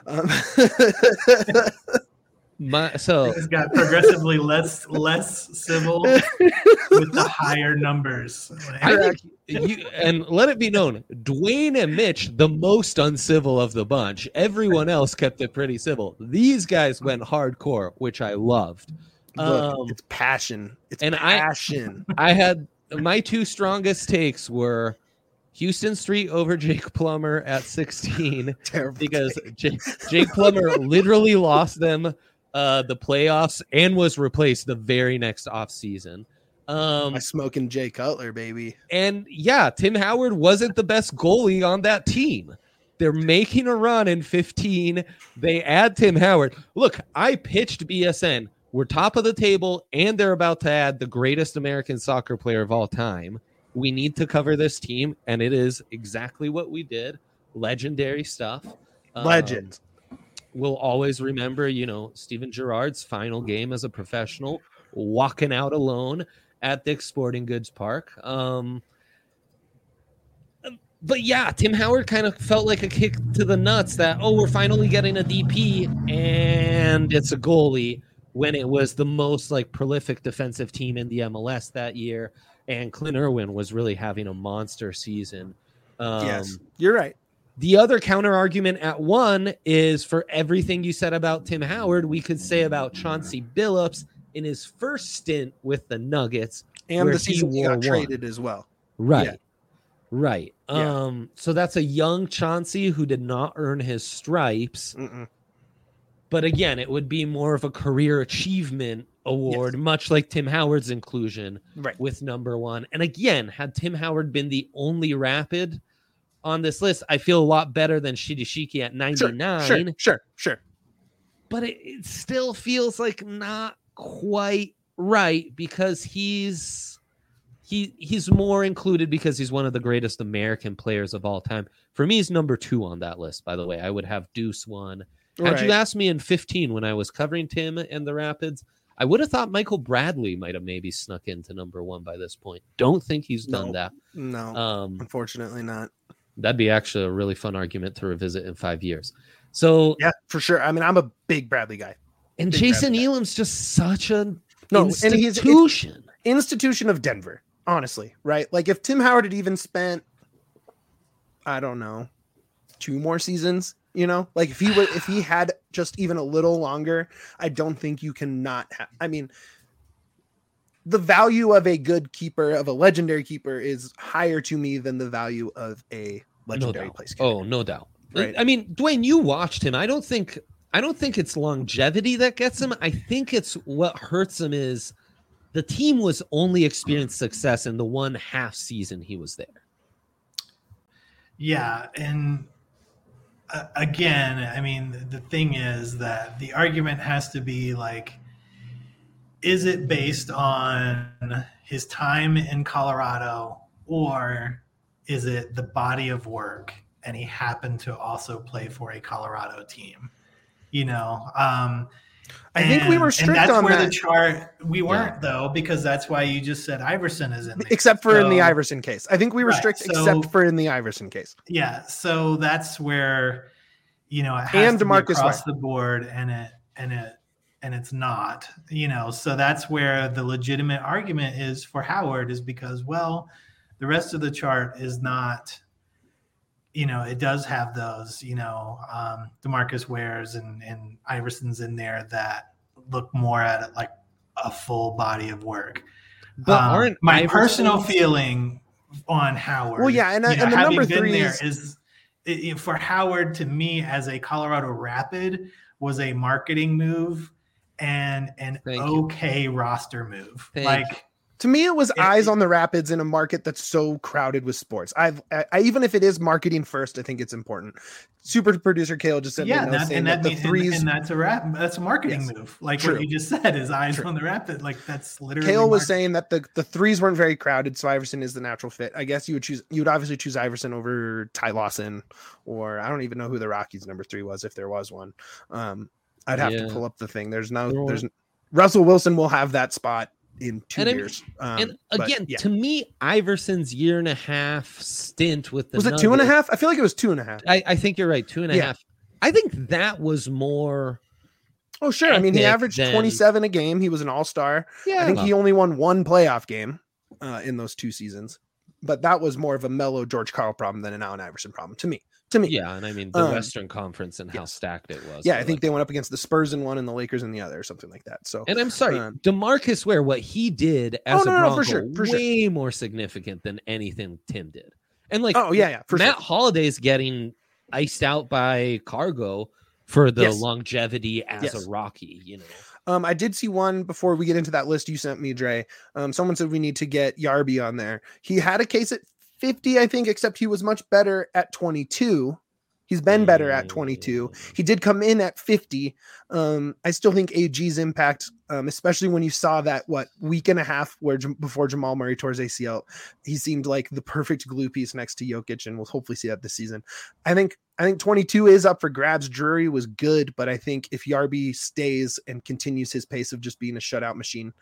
It's got progressively less civil with the higher numbers. I think and let it be known, Dwayne and Mitch, the most uncivil of the bunch. Everyone else kept it pretty civil. These guys went hardcore, which I loved. Look, it's passion. It's passion. I had my two strongest takes were Houston Street over Jake Plummer at 16. Terrible because Jake Plummer literally lost them the playoffs and was replaced the very next offseason. My smoking Jay Cutler, baby. And yeah, Tim Howard wasn't the best goalie on that team. They're making a run in 15. They add Tim Howard. Look, I pitched BSN. We're top of the table, and they're about to add the greatest American soccer player of all time. We need to cover this team, and it is exactly what we did. Legendary stuff. Legend. We'll always remember, Steven Gerrard's final game as a professional, walking out alone at Dick's Sporting Goods Park. But yeah, Tim Howard kind of felt like a kick to the nuts that, we're finally getting a DP, and it's a goalie, when it was the most prolific defensive team in the MLS that year. And Clint Irwin was really having a monster season. Yes, you're right. The other counter argument at one is, for everything you said about Tim Howard, we could say about Chauncey Billups in his first stint with the Nuggets. And the season he got traded as well. Right. Yeah. Right. Yeah. So that's a young Chauncey who did not earn his stripes. Mm-mm. But again, it would be more of a career achievement award, much like Tim Howard's inclusion with number one. And again, had Tim Howard been the only Rapid on this list, I feel a lot better than Shiki at 99. Sure. But it still feels like not quite right, because he's more included because he's one of the greatest American players of all time. For me, he's number 2 on that list, by the way. I would have Deuce 1. Had you asked me in 15 when I was covering Tim and the Rapids, I would have thought Michael Bradley might have maybe snuck into number 1 by this point. Don't think he's done that. No, unfortunately not. That'd be actually a really fun argument to revisit in 5 years. So yeah, for sure. I mean, I'm a big Bradley guy. And Jason Elam's just such an institution. And he's institution of Denver, honestly, right? Like if Tim Howard had even spent, I don't know, 2 more seasons, like if he had just even a little longer, I don't think you can not have. I mean, the value of a good keeper, of a legendary keeper, is higher to me than the value of a legendary place keeper. Oh, no doubt. Right. I mean, Dwayne, you watched him. I don't think it's longevity that gets him. I think it's what hurts him is the team was only experienced success in the 1.5 season he was there. Yeah, and again, I mean, the thing is that the argument has to be like, is it based on his time in Colorado, or is it the body of work and he happened to also play for a Colorado team? You know, I think we were strict and that's on where that. the chart we weren't though, because that's why you just said Iverson is in there. Except for in the Iverson case. I think we were strict except for in the Iverson case. Yeah, so that's where, you know, it has and to DeMarcus be across Ware. the board, and it's not, you know. So that's where the legitimate argument is for Howard, is because, well, the rest of the chart is not, you know, it does have those, you know, DeMarcus Wares and Iverson's in there that look more at it like a full body of work. But aren't my personal feeling on Howard? Well, yeah, and the number 3 is for Howard, to me, as a Colorado Rapid, was a marketing move and an okay roster move. To me, it was eyes on the Rapids in a market that's so crowded with sports. I even if it is marketing first, I think it's important. Super producer Kale just said, the threes, and that's a marketing move. Like what you just said is eyes on the Rapid. Like that's literally. Kale was saying that the threes weren't very crowded, so Iverson is the natural fit. I guess you would obviously choose Iverson over Ty Lawson, or I don't even know who the Rockies number 3 was, if there was one. I'd have to pull up the thing. There's Russell Wilson will have that spot in 2 years. And again, to me, Iverson's 1.5 stint with the was it 2.5? I feel like it was 2.5. I think you're right, 2.5. I think that was more. Oh, sure. I mean, he averaged 27 a game. He was an all-star. Yeah, I think he only won 1 playoff game in those 2 seasons. But that was more of a mellow George Karl problem than an Allen Iverson problem to me. Yeah, and I mean the Western Conference and how stacked it was. Yeah, I think they went up against the Spurs in one and the Lakers in the other, or something like that. So, and I'm sorry, DeMarcus Ware, what he did as a Bronco, for way more significant than anything Tim did. And like, Matt Holliday's getting iced out by Cargo for the longevity as a Rocky, you know. I did see one before we get into that list you sent me, Dre. Someone said we need to get Yarby on there. He had a case at 50, I think, except he was much better at 22. He's been better at 22. He did come in at 50. I still think AG's impact, especially when you saw that week and a half before Jamal Murray tore his ACL, he seemed like the perfect glue piece next to Jokic, and we'll hopefully see that this season. I think 22 is up for grabs. Drury was good, but I think if Yarby stays and continues his pace of just being a shutout machine,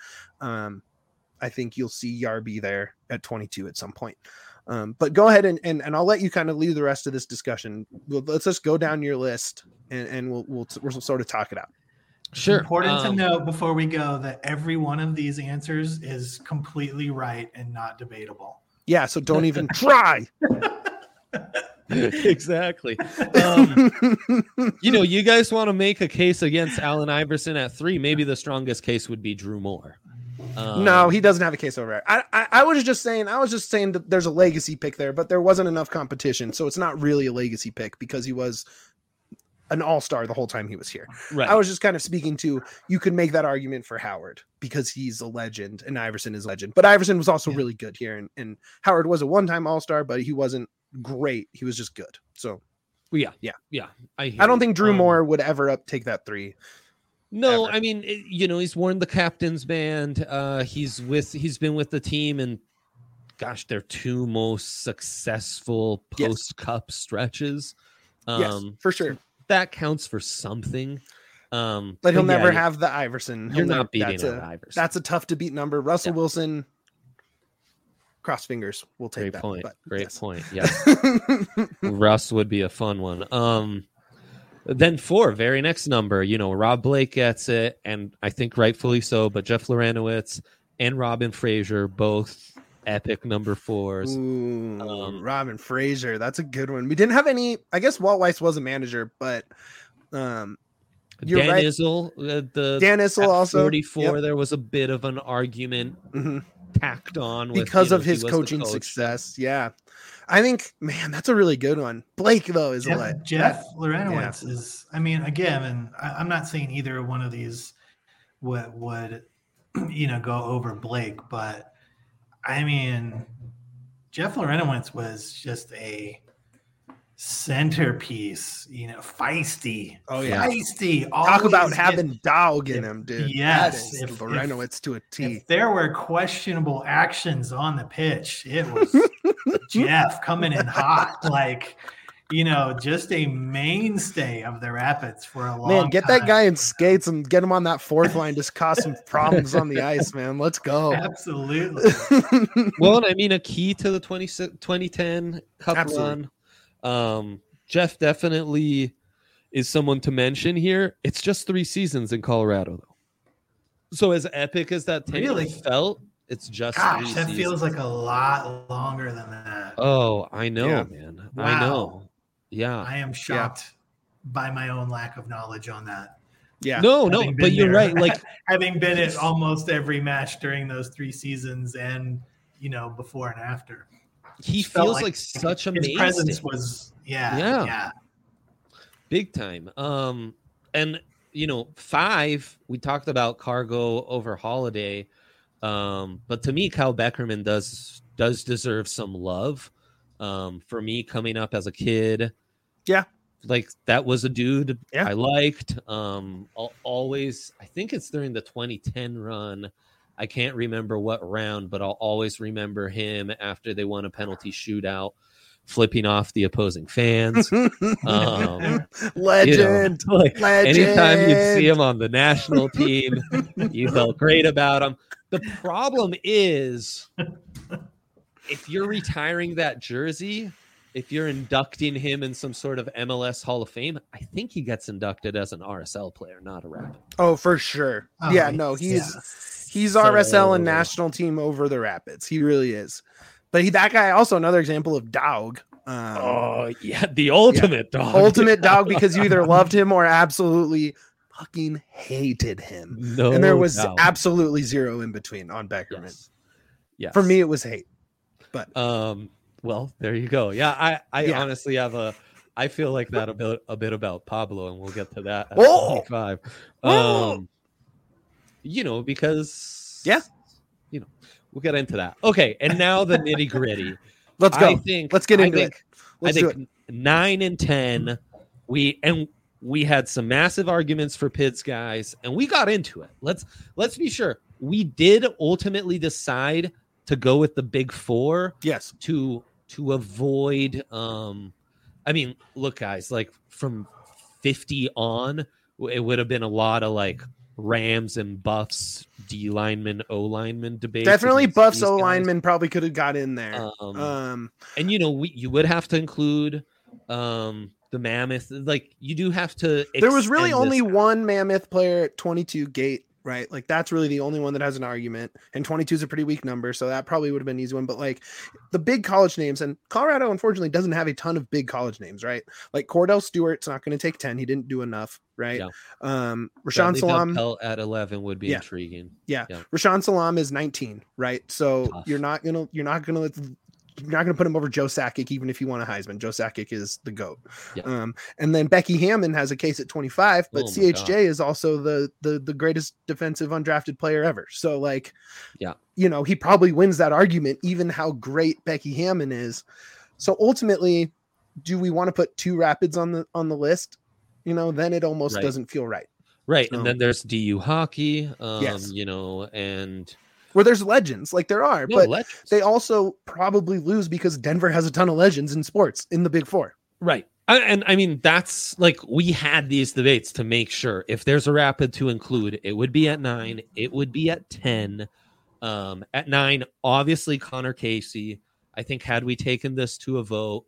I think you'll see Yarby there at 22 at some point. But go ahead and I'll let you kind of lead the rest of this discussion. Let's just go down your list and we'll sort of talk it out. Sure. Important to note before we go that every one of these answers is completely right and not debatable. Yeah, so don't even try. Exactly. You know, you guys want to make a case against Allen Iverson at 3. Maybe the strongest case would be Drew Moore. No, he doesn't have a case over it. I was just saying that there's a legacy pick there, but there wasn't enough competition, so it's not really a legacy pick because he was an all-star the whole time he was here. Right. I was just kind of speaking to, you could make that argument for Howard because he's a legend and Iverson is a legend, but Iverson was also really good here, and Howard was a one-time all-star, but he wasn't great. He was just good. So yeah. I don't think Drew Moore would ever take that 3. No, ever. I mean, you know, he's worn the captain's band. He's been with the team, and gosh, their 2 most successful post-cup stretches. Yes, for sure. That counts for something. But he'll never have the Iverson. You're not beating Iverson. That's a tough to beat number. Russell Wilson, cross fingers. We'll take that. Great point. Yeah. Russ would be a fun one. Then 4, very next number, you know, Rob Blake gets it, and I think rightfully so, but Jeff Lorenowitz and Robin Frazier, both epic number 4s. Ooh, Robin Frazier, that's a good one. We didn't have any, I guess Walt Weiss was a manager, but Dan Issel, Dan Issel also 44, there was a bit of an argument tacked on with, because of his coaching success. Yeah. I think, man, that's a really good one. Blake, though, is Jeff Lorenowitz is, I mean, again, and I'm not saying either one of these would go over Blake, but I mean, Jeff Larentowicz was just a centerpiece, feisty. Oh, yeah. Feisty. Talk about Always having dog in him, dude. Yes. That is Larentowicz to a T. If there were questionable actions on the pitch, it was Jeff coming in hot. Like, just a mainstay of the Rapids for a long time. Get that guy in skates and get him on that fourth line. Just cause some problems on the ice, man. Let's go. Absolutely. Well, and I mean, a key to the 2010 Cup Absolutely. run. Jeff definitely is someone to mention here. It's just 3 seasons in Colorado, though. So as epic as that tenure felt, it's just 3 that seasons. feels like a lot longer than that. Oh, I know, man. Wow. I know. Yeah. I am shocked by my own lack of knowledge on that. Yeah. No, but you're right. Like having been at almost every match during those 3 seasons and, before and after. He feels like such a his presence was big time. And 5, we talked about Cargo over Holiday. But to me, Kyle Beckerman does deserve some love. For me, coming up as a kid, like that was a dude I liked. Always, I think it's during the 2010 run. I can't remember what round, but I'll always remember him after they won a penalty shootout, flipping off the opposing fans. Legend. Legend. Anytime you'd see him on the national team, you felt great about him. The problem is, if you're retiring that jersey, if you're inducting him in some sort of MLS Hall of Fame, I think he gets inducted as an RSL player, not a Rapid. Oh, for sure. He's RSL and national team over the Rapids. He really is. But that guy also another example of dog. The ultimate dog. Ultimate dog, because you either loved him or absolutely fucking hated him. No, and there was absolutely zero in between on Beckerman. Yes. For me, it was hate. But well, there you go. Yeah, I honestly have I feel like that a bit about Pablo, and we'll get to that at 25. Because we'll get into that. Okay, and now the nitty gritty. Let's go. Let's get into it. I think 9 and 10. We had some massive arguments for Pids, guys, and we got into it. Let's be sure. We did ultimately decide to go with the big 4. Yes. To avoid I mean, look, guys, like from 50 on, it would have been a lot of like Rams and Buffs, D lineman, O lineman debate. Definitely Buffs, O lineman probably could have got in there. And you would have to include the Mammoth. Like you do have to. There was really only one Mammoth player at 22 gate, right? Like that's really the only one that has an argument, and 22 is a pretty weak number, so that probably would have been an easy one. But like the big college names, and Colorado unfortunately doesn't have a ton of big college names, right? Like Cordell Stewart's not going to take 10; he didn't do enough, right? Rashawn Salam at 11 would be intriguing. Rashawn Salam is 19, right? So tough. you're not gonna put him over Joe Sakic, even if you want a Heisman. Joe Sakic is the GOAT. And then Becky Hammond has a case at 25, but CHJ is also the greatest defensive undrafted player ever. So like, he probably wins that argument, even how great Becky Hammond is. So ultimately, do we want to put 2 Rapids on the list? Then it almost doesn't feel right. Right. And then there's DU hockey, yes. And where there's legends, like there are, but they also probably lose because Denver has a ton of legends in sports in the Big 4. Right. And I mean, that's like, we had these debates to make sure if there's a Rapid to include, it would be at 9, it would be at 10. At 9, obviously Connor Casey. I think had we taken this to a vote,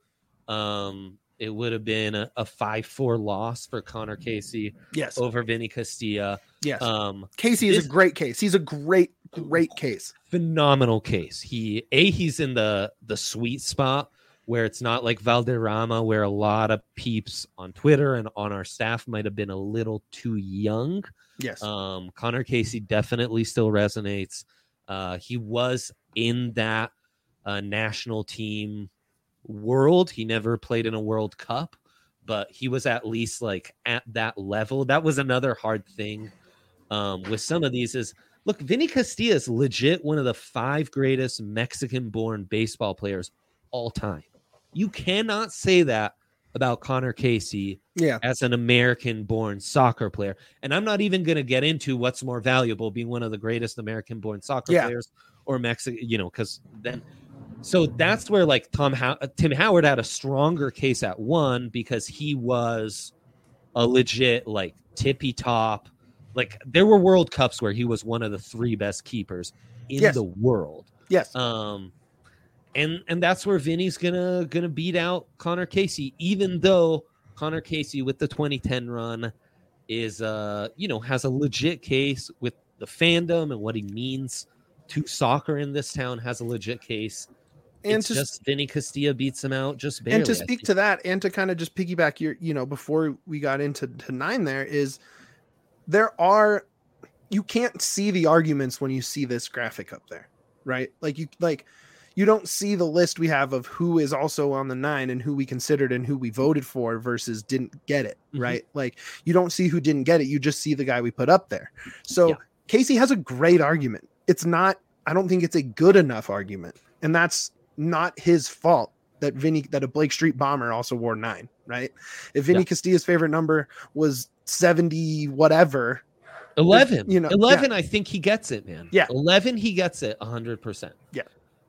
it would have been a 5-4 loss for Connor Casey over Vinny Castilla. Yes. Casey is a great case. He's a great case. Phenomenal case. He's in the sweet spot where it's not like Valderrama, where a lot of peeps on Twitter and on our staff might have been a little too young. Yes. Connor Casey definitely still resonates. He was in that national team world. He never played in a World Cup, but he was at least like at that level. That was another hard thing with some of these is look, Vinny Castilla is legit one of the 5 greatest Mexican-born baseball players all time. You cannot say that about Connor Casey as an American-born soccer player. And I'm not even going to get into what's more valuable, being one of the greatest American-born soccer players or Mexican, because then. So that's where like Tim Howard had a stronger case at 1 because he was a legit like tippy top. Like there were World Cups where he was one of the 3 best keepers in the world. Yes. And that's where Vinny's gonna beat out Connor Casey, even though Connor Casey with the 2010 run is has a legit case with the fandom and what he means to soccer in this town, has a legit case. And it's just Vinny Castilla beats him out just barely. And to speak to that, and to kind of just piggyback your, before we got into 9, you can't see the arguments when you see this graphic up there, right? You don't see the list we have of who is also on the 9 and who we considered and who we voted for versus didn't get it, right? Like you don't see who didn't get it. You just see the guy we put up there. So Casey has a great argument. I don't think it's a good enough argument. And that's not his fault that a Blake Street bomber also wore 9, right? If Vinny Castilla's favorite number was 70, whatever, 11, 11, I think he gets it, man. Yeah. 11, he gets it 100%. Yeah.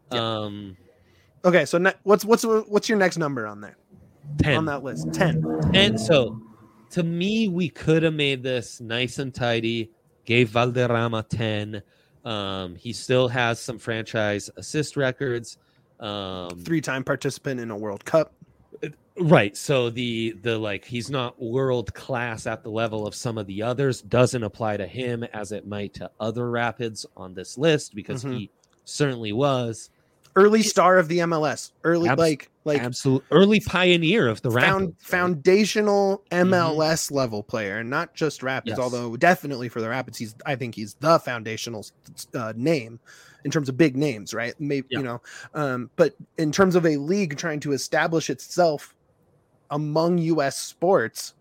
Okay, so what's your next number on there? 10 on that list. 10. And so to me, we could have made this nice and tidy, gave Valderrama 10. He still has some franchise assist records. 3-time participant in a World Cup. Right. So the like he's not world class at the level of some of the others, doesn't apply to him as it might to other Rapids on this list because he certainly was. Early star of the MLS, early absolute early pioneer of the Rapids, foundational MLS level player, and not just Rapids. Although definitely for the Rapids, I think he's the foundational name in terms of big names, right? Maybe but in terms of a league trying to establish itself among U.S. sports,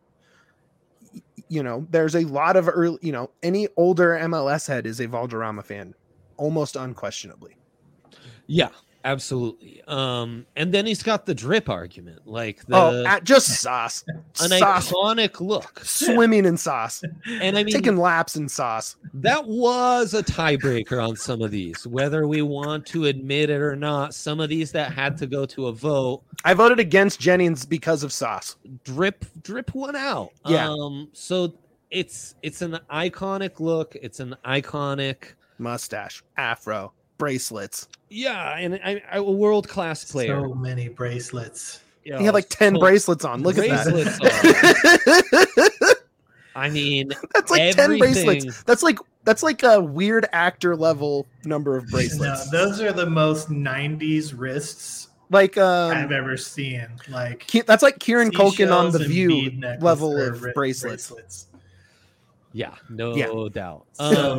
there's a lot of early, any older MLS head is a Valderrama fan, almost unquestionably. Yeah, absolutely. And then he's got the drip argument, like just sauce, iconic look, swimming in sauce, and I mean taking laps in sauce. That was a tiebreaker on some of these, whether we want to admit it or not. Some of these that had to go to a vote. I voted against Jennings because of sauce. Drip one out. Yeah. So it's an iconic look. It's an iconic mustache, afro, bracelets. Yeah, and a world-class player. So many bracelets. He had like 10 bracelets on. Look at that. I mean, that's like 10 bracelets. That's like a weird actor level number of bracelets. No, those are the most 90s wrists like I've ever seen. Like that's like Kieran Culkin on The View level of bracelets. Yeah, no doubt. So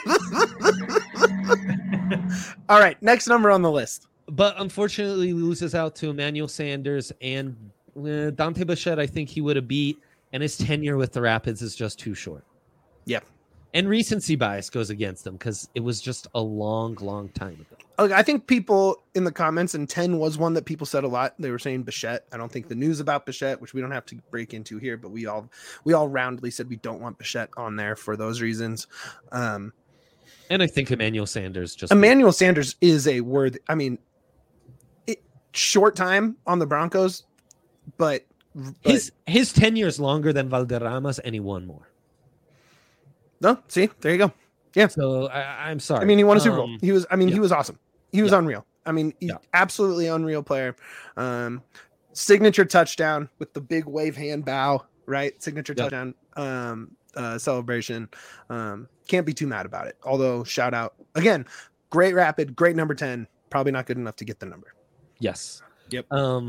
all right, next number on the list. But unfortunately, loses out to Emmanuel Sanders and Dante Bichette. I think he would have beat, and his tenure with the Rapids is just too short. Yeah. And recency bias goes against them because it was just a long, long time ago. Okay, I think people in the comments, and 10 was one that people said a lot. They were saying Bichette. I don't think the news about Bichette, which we don't have to break into here, but we all roundly said we don't want Bichette on there for those reasons. And I think Emmanuel Sanders Sanders is a worthy. I mean, short time on the Broncos, but his tenure is longer than Valderrama's, and he won more. No, see, there you go. Yeah. So I'm sorry. I mean, he won a Super Bowl. He was awesome. He was unreal. I mean, absolutely unreal player. Signature touchdown with the big wave hand bow, right? Signature touchdown celebration. Can't be too mad about it. Although, shout out again, great Rapid, great number 10. Probably not good enough to get the number. Yes. Yep.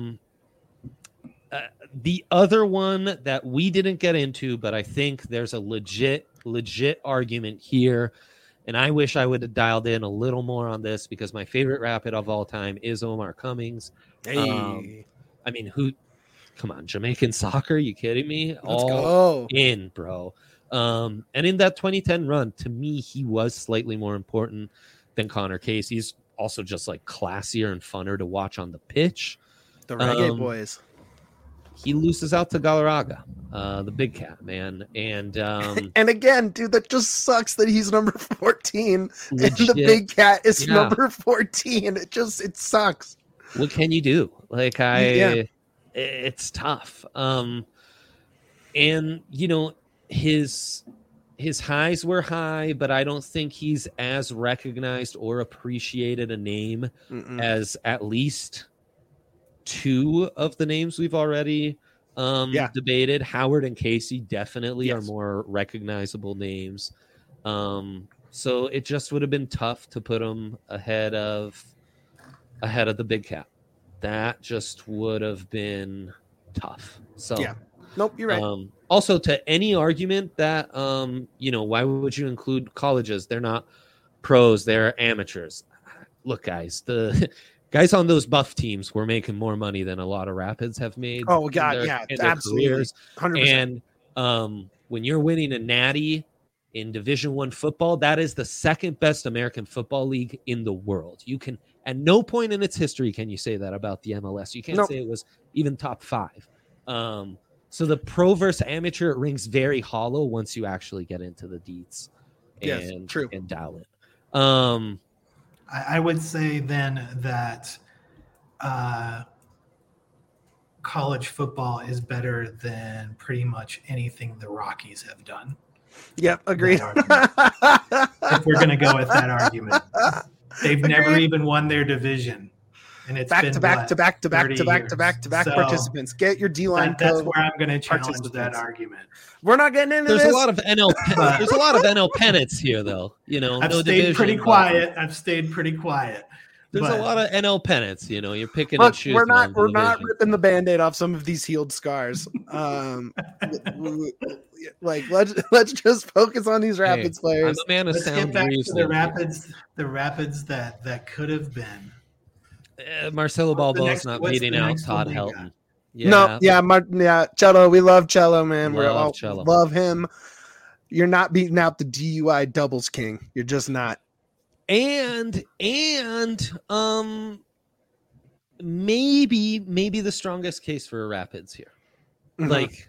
The other one that we didn't get into, but I think there's a legit argument here, and I wish I would have dialed in a little more on this because my favorite Rapid of all time is Omar Cummings. Hey. I mean, come on, Jamaican soccer? You kidding me? Let's go in, bro. And in that 2010 run, to me, he was slightly more important than Connor Case. He's also just like classier and funner to watch on the pitch. The Reggae Boys. He loses out to Galarraga, the big cat, man. And and again, dude, that just sucks that he's number 14 legit, and the big cat is yeah. number 14. It sucks. What can you do? Like it's tough. And you know, his highs were high, but I don't think he's as recognized or appreciated a name as at least two of the names we've already debated. Howard and Casey definitely are more recognizable names. So it just would have been tough to put him ahead of the big cat. That just would have been tough. So nope, you're right. Also, to any argument that you know, why would you include colleges? They're not pros, they're amateurs. Look, guys, the guys on those buff teams were making more money than a lot of Rapids have made. Oh God, in their absolutely, careers. 100%. And when you're winning a natty in Division I football, that is the second best American football league in the world. You can, at no point in its history can you say that about the MLS. You can't say it was even top 5. So the pro versus amateur, it rings very hollow once you actually get into the deets and dial it. I would say then that college football is better than pretty much anything the Rockies have done. Yep, agreed. If we're going to go with that argument, they've never even won their division, and it's back to back participants. Get your D-line. That's where I'm going to challenge that argument. We're not getting into there's this. A lot of NL. There's a lot of NL pennants here, though. You know, I've stayed pretty quiet. There's a lot of NL pennants. You know, you're picking and choosing. We're not ripping the Band-Aid off some of these healed scars. Like let's just focus on these Rapids players. I'm a man of let's sound get back to the reasoning. Rapids that could have been. Marcelo Balboa's not beating out Todd Helton. Cello. We love Cello, man. Cello. Love him. You're not beating out the DUI doubles king. You're just not. And maybe the strongest case for Rapids here, like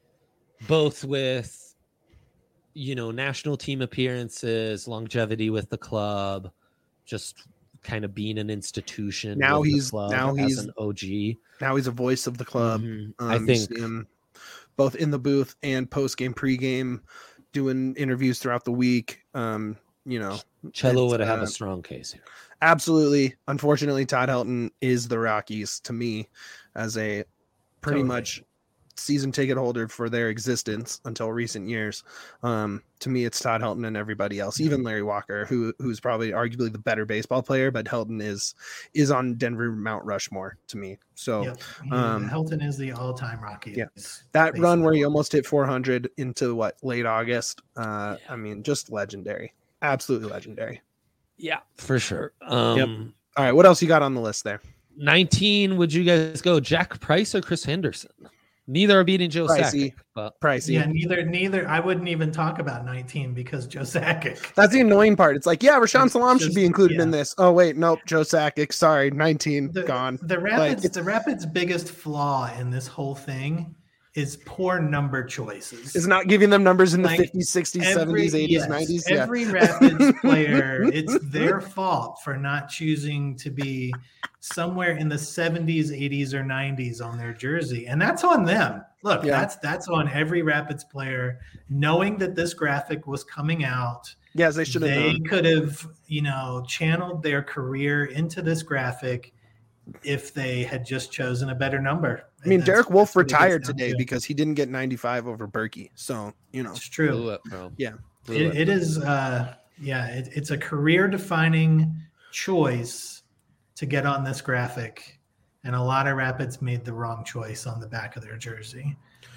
both with, you know, national team appearances, longevity with the club, just kind of being an institution. Now he's an OG. Now he's a voice of the club. I think him both in the booth and post game, pre-game, doing interviews throughout the week. You know, Cello would have a strong case here. Absolutely. Unfortunately, Todd Helton is the Rockies to me as a pretty much season ticket holder for their existence until recent years. To me, it's Todd Helton and everybody else, even Larry Walker, who's probably arguably the better baseball player, but Helton is on Denver Mount Rushmore to me. So Helton is the all-time Rocky. Yeah, that run where he almost hit 400 into late August. I mean, just legendary. Absolutely legendary. Yeah, for sure. All right, what else you got on the list there? 19, would you guys go Jack Price or Chris Henderson? Neither are beating Joe Sakic. Pricey. Yeah, neither. I wouldn't even talk about 19 because Joe Sakic. That's the annoying part. It's like, Rashawn Salam should be included in this. Oh, wait, nope, Joe Sakic. Sorry, 19, gone. The Rapids' biggest flaw in this whole thing is poor number choices. It's not giving them numbers in the 50s, 60s, 70s, 80s, 90s. Every Rapids player, it's their fault for not choosing to be somewhere in the 70s, 80s, or 90s on their jersey. And that's on them. Look, that's on every Rapids player, knowing that this graphic was coming out. Yes, they should have known. They could have, channeled their career into this graphic if they had just chosen a better number. I mean, Derek Wolfe retired today because he didn't get 95 over Berkey. So, it's true. Yeah. It is. It's a career defining choice to get on this graphic. And a lot of Rapids made the wrong choice on the back of their jersey.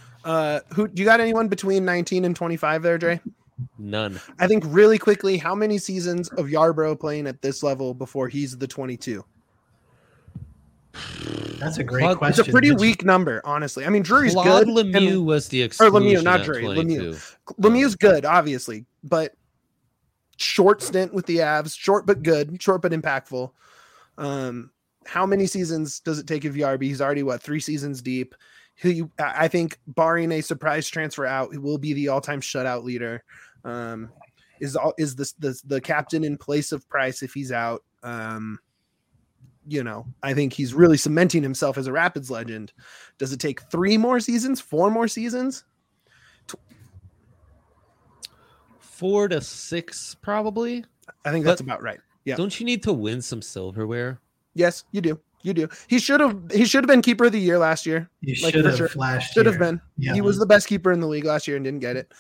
Who do you got anyone between 19 and 25 there, Dre? None. I think really quickly, how many seasons of Yarbrough playing at this level before he's the 22? That's a great Claude- question. It's a pretty Mitch. weak number, honestly. I mean, Drury's Claude good. Lemieux and- was the or exclusion. Lemieux, not at Drury. 22. Lemieux's good, obviously, but short stint with the Avs, short but good, short but impactful. How many seasons does it take if Yarby? He's already 3 seasons deep. I think, barring a surprise transfer out, he will be the all-time shutout leader. Is the captain in place of Price if he's out? I think he's really cementing himself as a Rapids legend. Does it take 3 more seasons, 4 more seasons? 4 to 6, probably. I think that's about right. Yeah. Don't you need to win some silverware? Yes, you do. You do. He should have been keeper of the year last year. You Like, should for have sure. flashed. Should have been. Yeah. He was the best keeper in the league last year and didn't get it.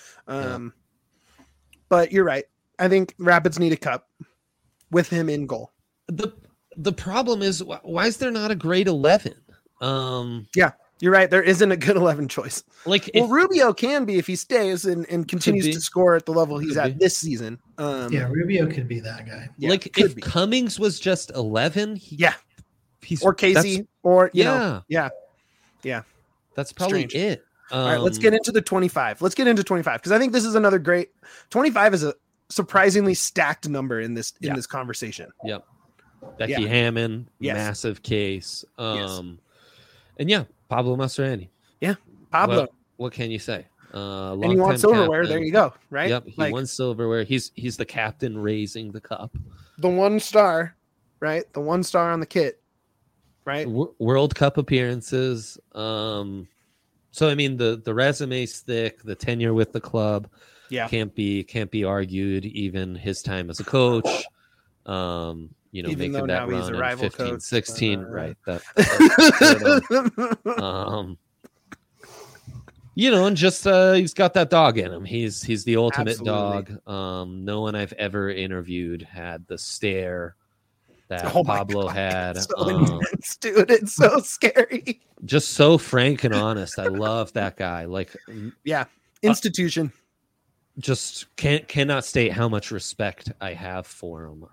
But you're right. I think Rapids need a cup with him in goal. The problem is, why is there not a grade 11? You're right. There isn't a good 11 choice. Like, Well, Rubio can be if he stays and continues be. to score at the level he's Could at be. this season. Yeah, Rubio could be that guy. Yeah, like could if be. Cummings was just 11, Yeah. he's Or Casey or yeah, that's probably Strange. it. All right, let's get into the 25. Let's get into 25 because I think this is another great 25 is a surprisingly stacked number in this conversation. Yep. Becky Yeah. Hammond, Yes. massive case. Yes. And yeah, Pablo Mastroeni. Pablo, What can you say? and you want silverware? There you go. Right? Yep, he won silverware. He's the captain raising the cup. The 1 star, right? The 1 star on the kit, right? World Cup appearances. So I mean, the resume's thick. The tenure with the club, Yeah. can't be argued. Even his time as a coach. Even Making though that now he's run a in rival 15, coach, 16, but, right? And just he's got that dog in him. He's the ultimate Absolutely. dog. No one I've ever interviewed had the stare that Oh my Pablo God, had. it's so intense, dude. It's so scary. Just so frank and honest. I love that guy. Like, Yeah. Institution. just cannot state how much respect I have for him.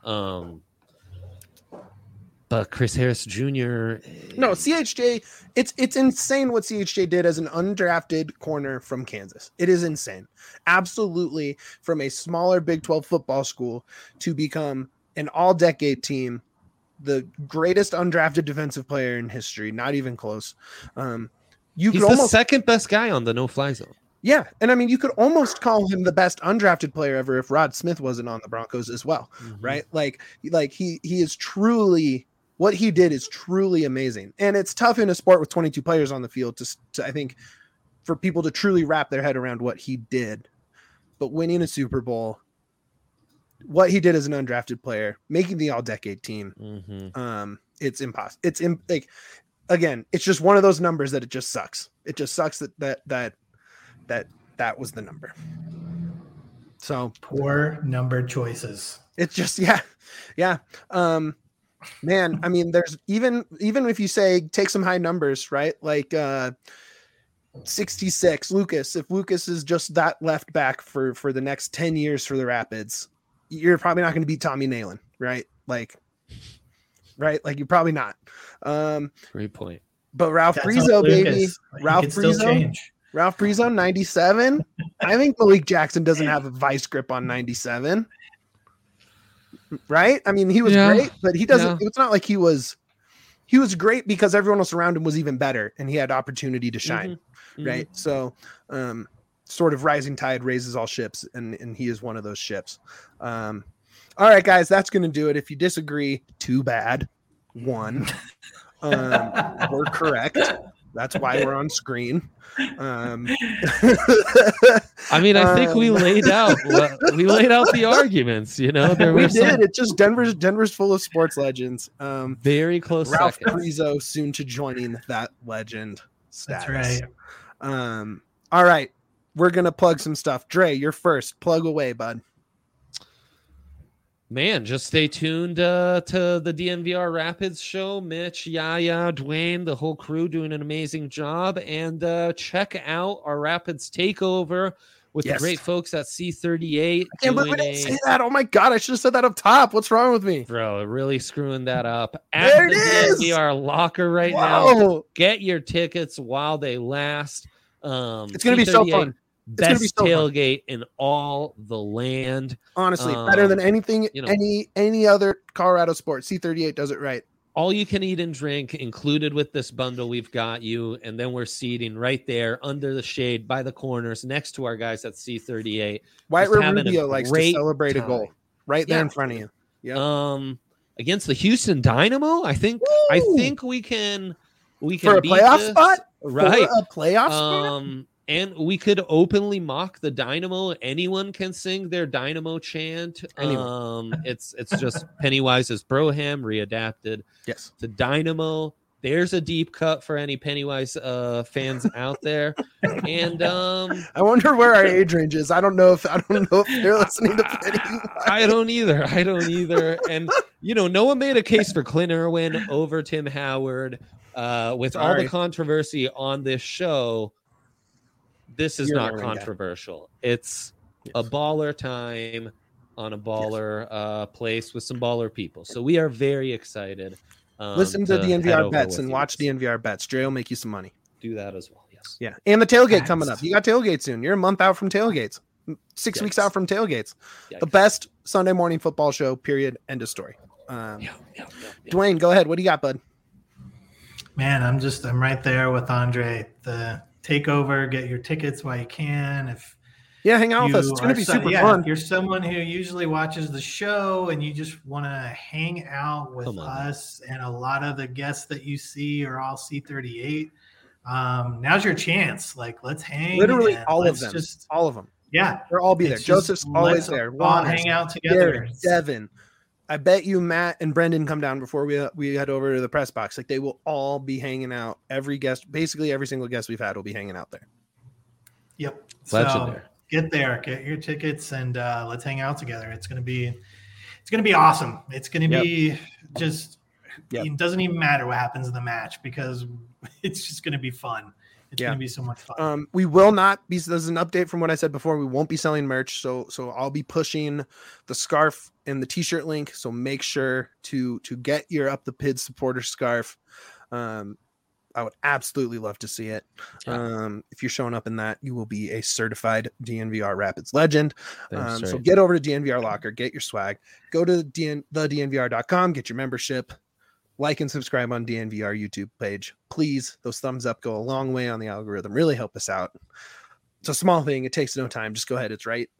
But Chris Harris Jr. No, CHJ, it's insane what CHJ did as an undrafted corner from Kansas. It is insane. Absolutely, from a smaller Big 12 football school to become an all-decade team, the greatest undrafted defensive player in history, not even close. He's the second best guy on the no-fly zone. Yeah, and I mean, you could almost call him the best undrafted player ever if Rod Smith wasn't on the Broncos as well, right? Like he is truly, what he did is truly amazing. And it's tough in a sport with 22 players on the field to I think, for people to truly wrap their head around what he did. But winning a Super Bowl, what he did as an undrafted player, making the all-decade team, it's impossible. Again, it's just one of those numbers that it just sucks. It just sucks that was the number. So Poor number choices. it's just yeah. Man, I mean, there's even if you say take some high numbers, right? Like 66 Lucas. If Lucas is just that left back for the next 10 years for the Rapids, you're probably not going to beat Tommy Nalen, right? Like you're probably not. Great point. But Ralph That's Frizo, on baby, Lucas. He Ralph could still Frizo. change. Ralph Frizo, 97. I think Malik Jackson doesn't have a vice grip on 97. Right? I mean, he was great, but he doesn't. It's not like he was great because everyone else around him was even better and he had opportunity to shine. Right? So, sort of rising tide raises all ships, and he is one of those ships. All right, guys, that's going to do it. If you disagree, too bad. We're correct. That's why we're on screen. I mean, I think we laid out the arguments. You know, there we were did. some It's just Denver's full of sports legends. very close Ralph seconds. Frizo soon to joining that legend status. That's right. All right, we're gonna plug some stuff. Dre, you're first. Plug away, bud. Man, just stay tuned to the DNVR Rapids show. Mitch, Yaya, Dwayne, the whole crew doing an amazing job. And check out our Rapids Takeover with the Yes. great folks at C38. I can't believe we didn't say that. Oh my god, I should have said that up top. What's wrong with me? Bro, really screwing that up. There At it the is! DNVR locker right now. Whoa. Get your tickets while they last. It's gonna be so C38, fun. gonna be Best so fun. tailgate in all the land. Honestly, better than anything, you know. any other Colorado sport. C38 does it right. All you can eat and drink included with this bundle. We've got you. And then we're seating right there under the shade by the corners next to our guys at C38. White Just having a Rubio likes to great celebrate a time. goal right there Yeah. in front of you. Yep. Against the Houston Dynamo, I think we can For a beat playoff this. spot? Right. For a playoff spot? And we could openly mock the Dynamo. Anyone can sing their Dynamo chant. It's just Pennywise's Broham readapted Yes. to Dynamo. There's a deep cut for any Pennywise fans out there. And I wonder where our age range is. I don't know if they're listening to Pennywise. I don't either. And no one made a case for Clint Irwin over Tim Howard. With all the controversy on this show, this is You're not the right guy. controversial. It's a baller time on a baller place with some baller people. So we are very excited. Listen to head DNVR over bets with and you watch guys. DNVR bets. Dre will make you some money. Do that as well. Yes. Yeah. And the tailgate Facts. coming up. You got tailgate soon. You're a month out from tailgates. 6 Yikes. weeks out from tailgates. The Yikes. best Sunday morning football show, period. End of story. Yeah. Dwayne, go ahead. What do you got, bud? Man, I'm right there with Andre. The takeover, get your tickets while you can. If Yeah, hang out with us. It's going to be super fun. If you're someone who usually watches the show and you just want to hang out with us, and a lot of the guests that you see are all C38, now's your chance. Like, let's hang. Literally and all of let's them. All of them. Yeah. They'll all be there. It's just, Joseph's always let's there. all Juan, hang out together. Derek, Devin. I bet you Matt and Brendan come down before we head over to the press box. Like, they will all be hanging out. Every guest, basically every single guest we've had will be hanging out there. Yep. Legendary. So get there, get your tickets, and let's hang out together. It's gonna be awesome. It's gonna be just. Yep. It doesn't even matter what happens in the match because it's just gonna be fun. It's gonna be so much fun. We will not be. This is an update from what I said before. We won't be selling merch, so I'll be pushing the scarf and the t-shirt link. So make sure to get your Up the Pid supporter scarf. I would absolutely love to see it. If you're showing up in that, you will be a certified DNVR Rapids legend. So get over to DNVR Locker, get your swag. Go to thednvr.com, get your membership. Like and subscribe on DNVR YouTube page. Please, those thumbs up go a long way on the algorithm. Really help us out. It's a small thing. It takes no time. Just go ahead. It's right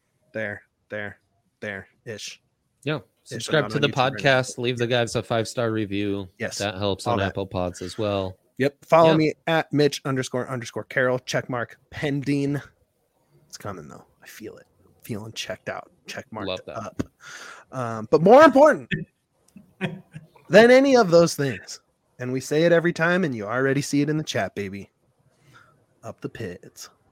there-ish. Yeah. Subscribe to the podcast. Leave the guys a 5-star review. Yes. That helps on Apple Pods as well. Yep. Follow me at Mitch__Carroll. Checkmark pending. It's coming though. I feel it. Feeling checked out. Checkmarked up. But more important than any of those things, and we say it every time, and you already see it in the chat, baby. Up the Pits.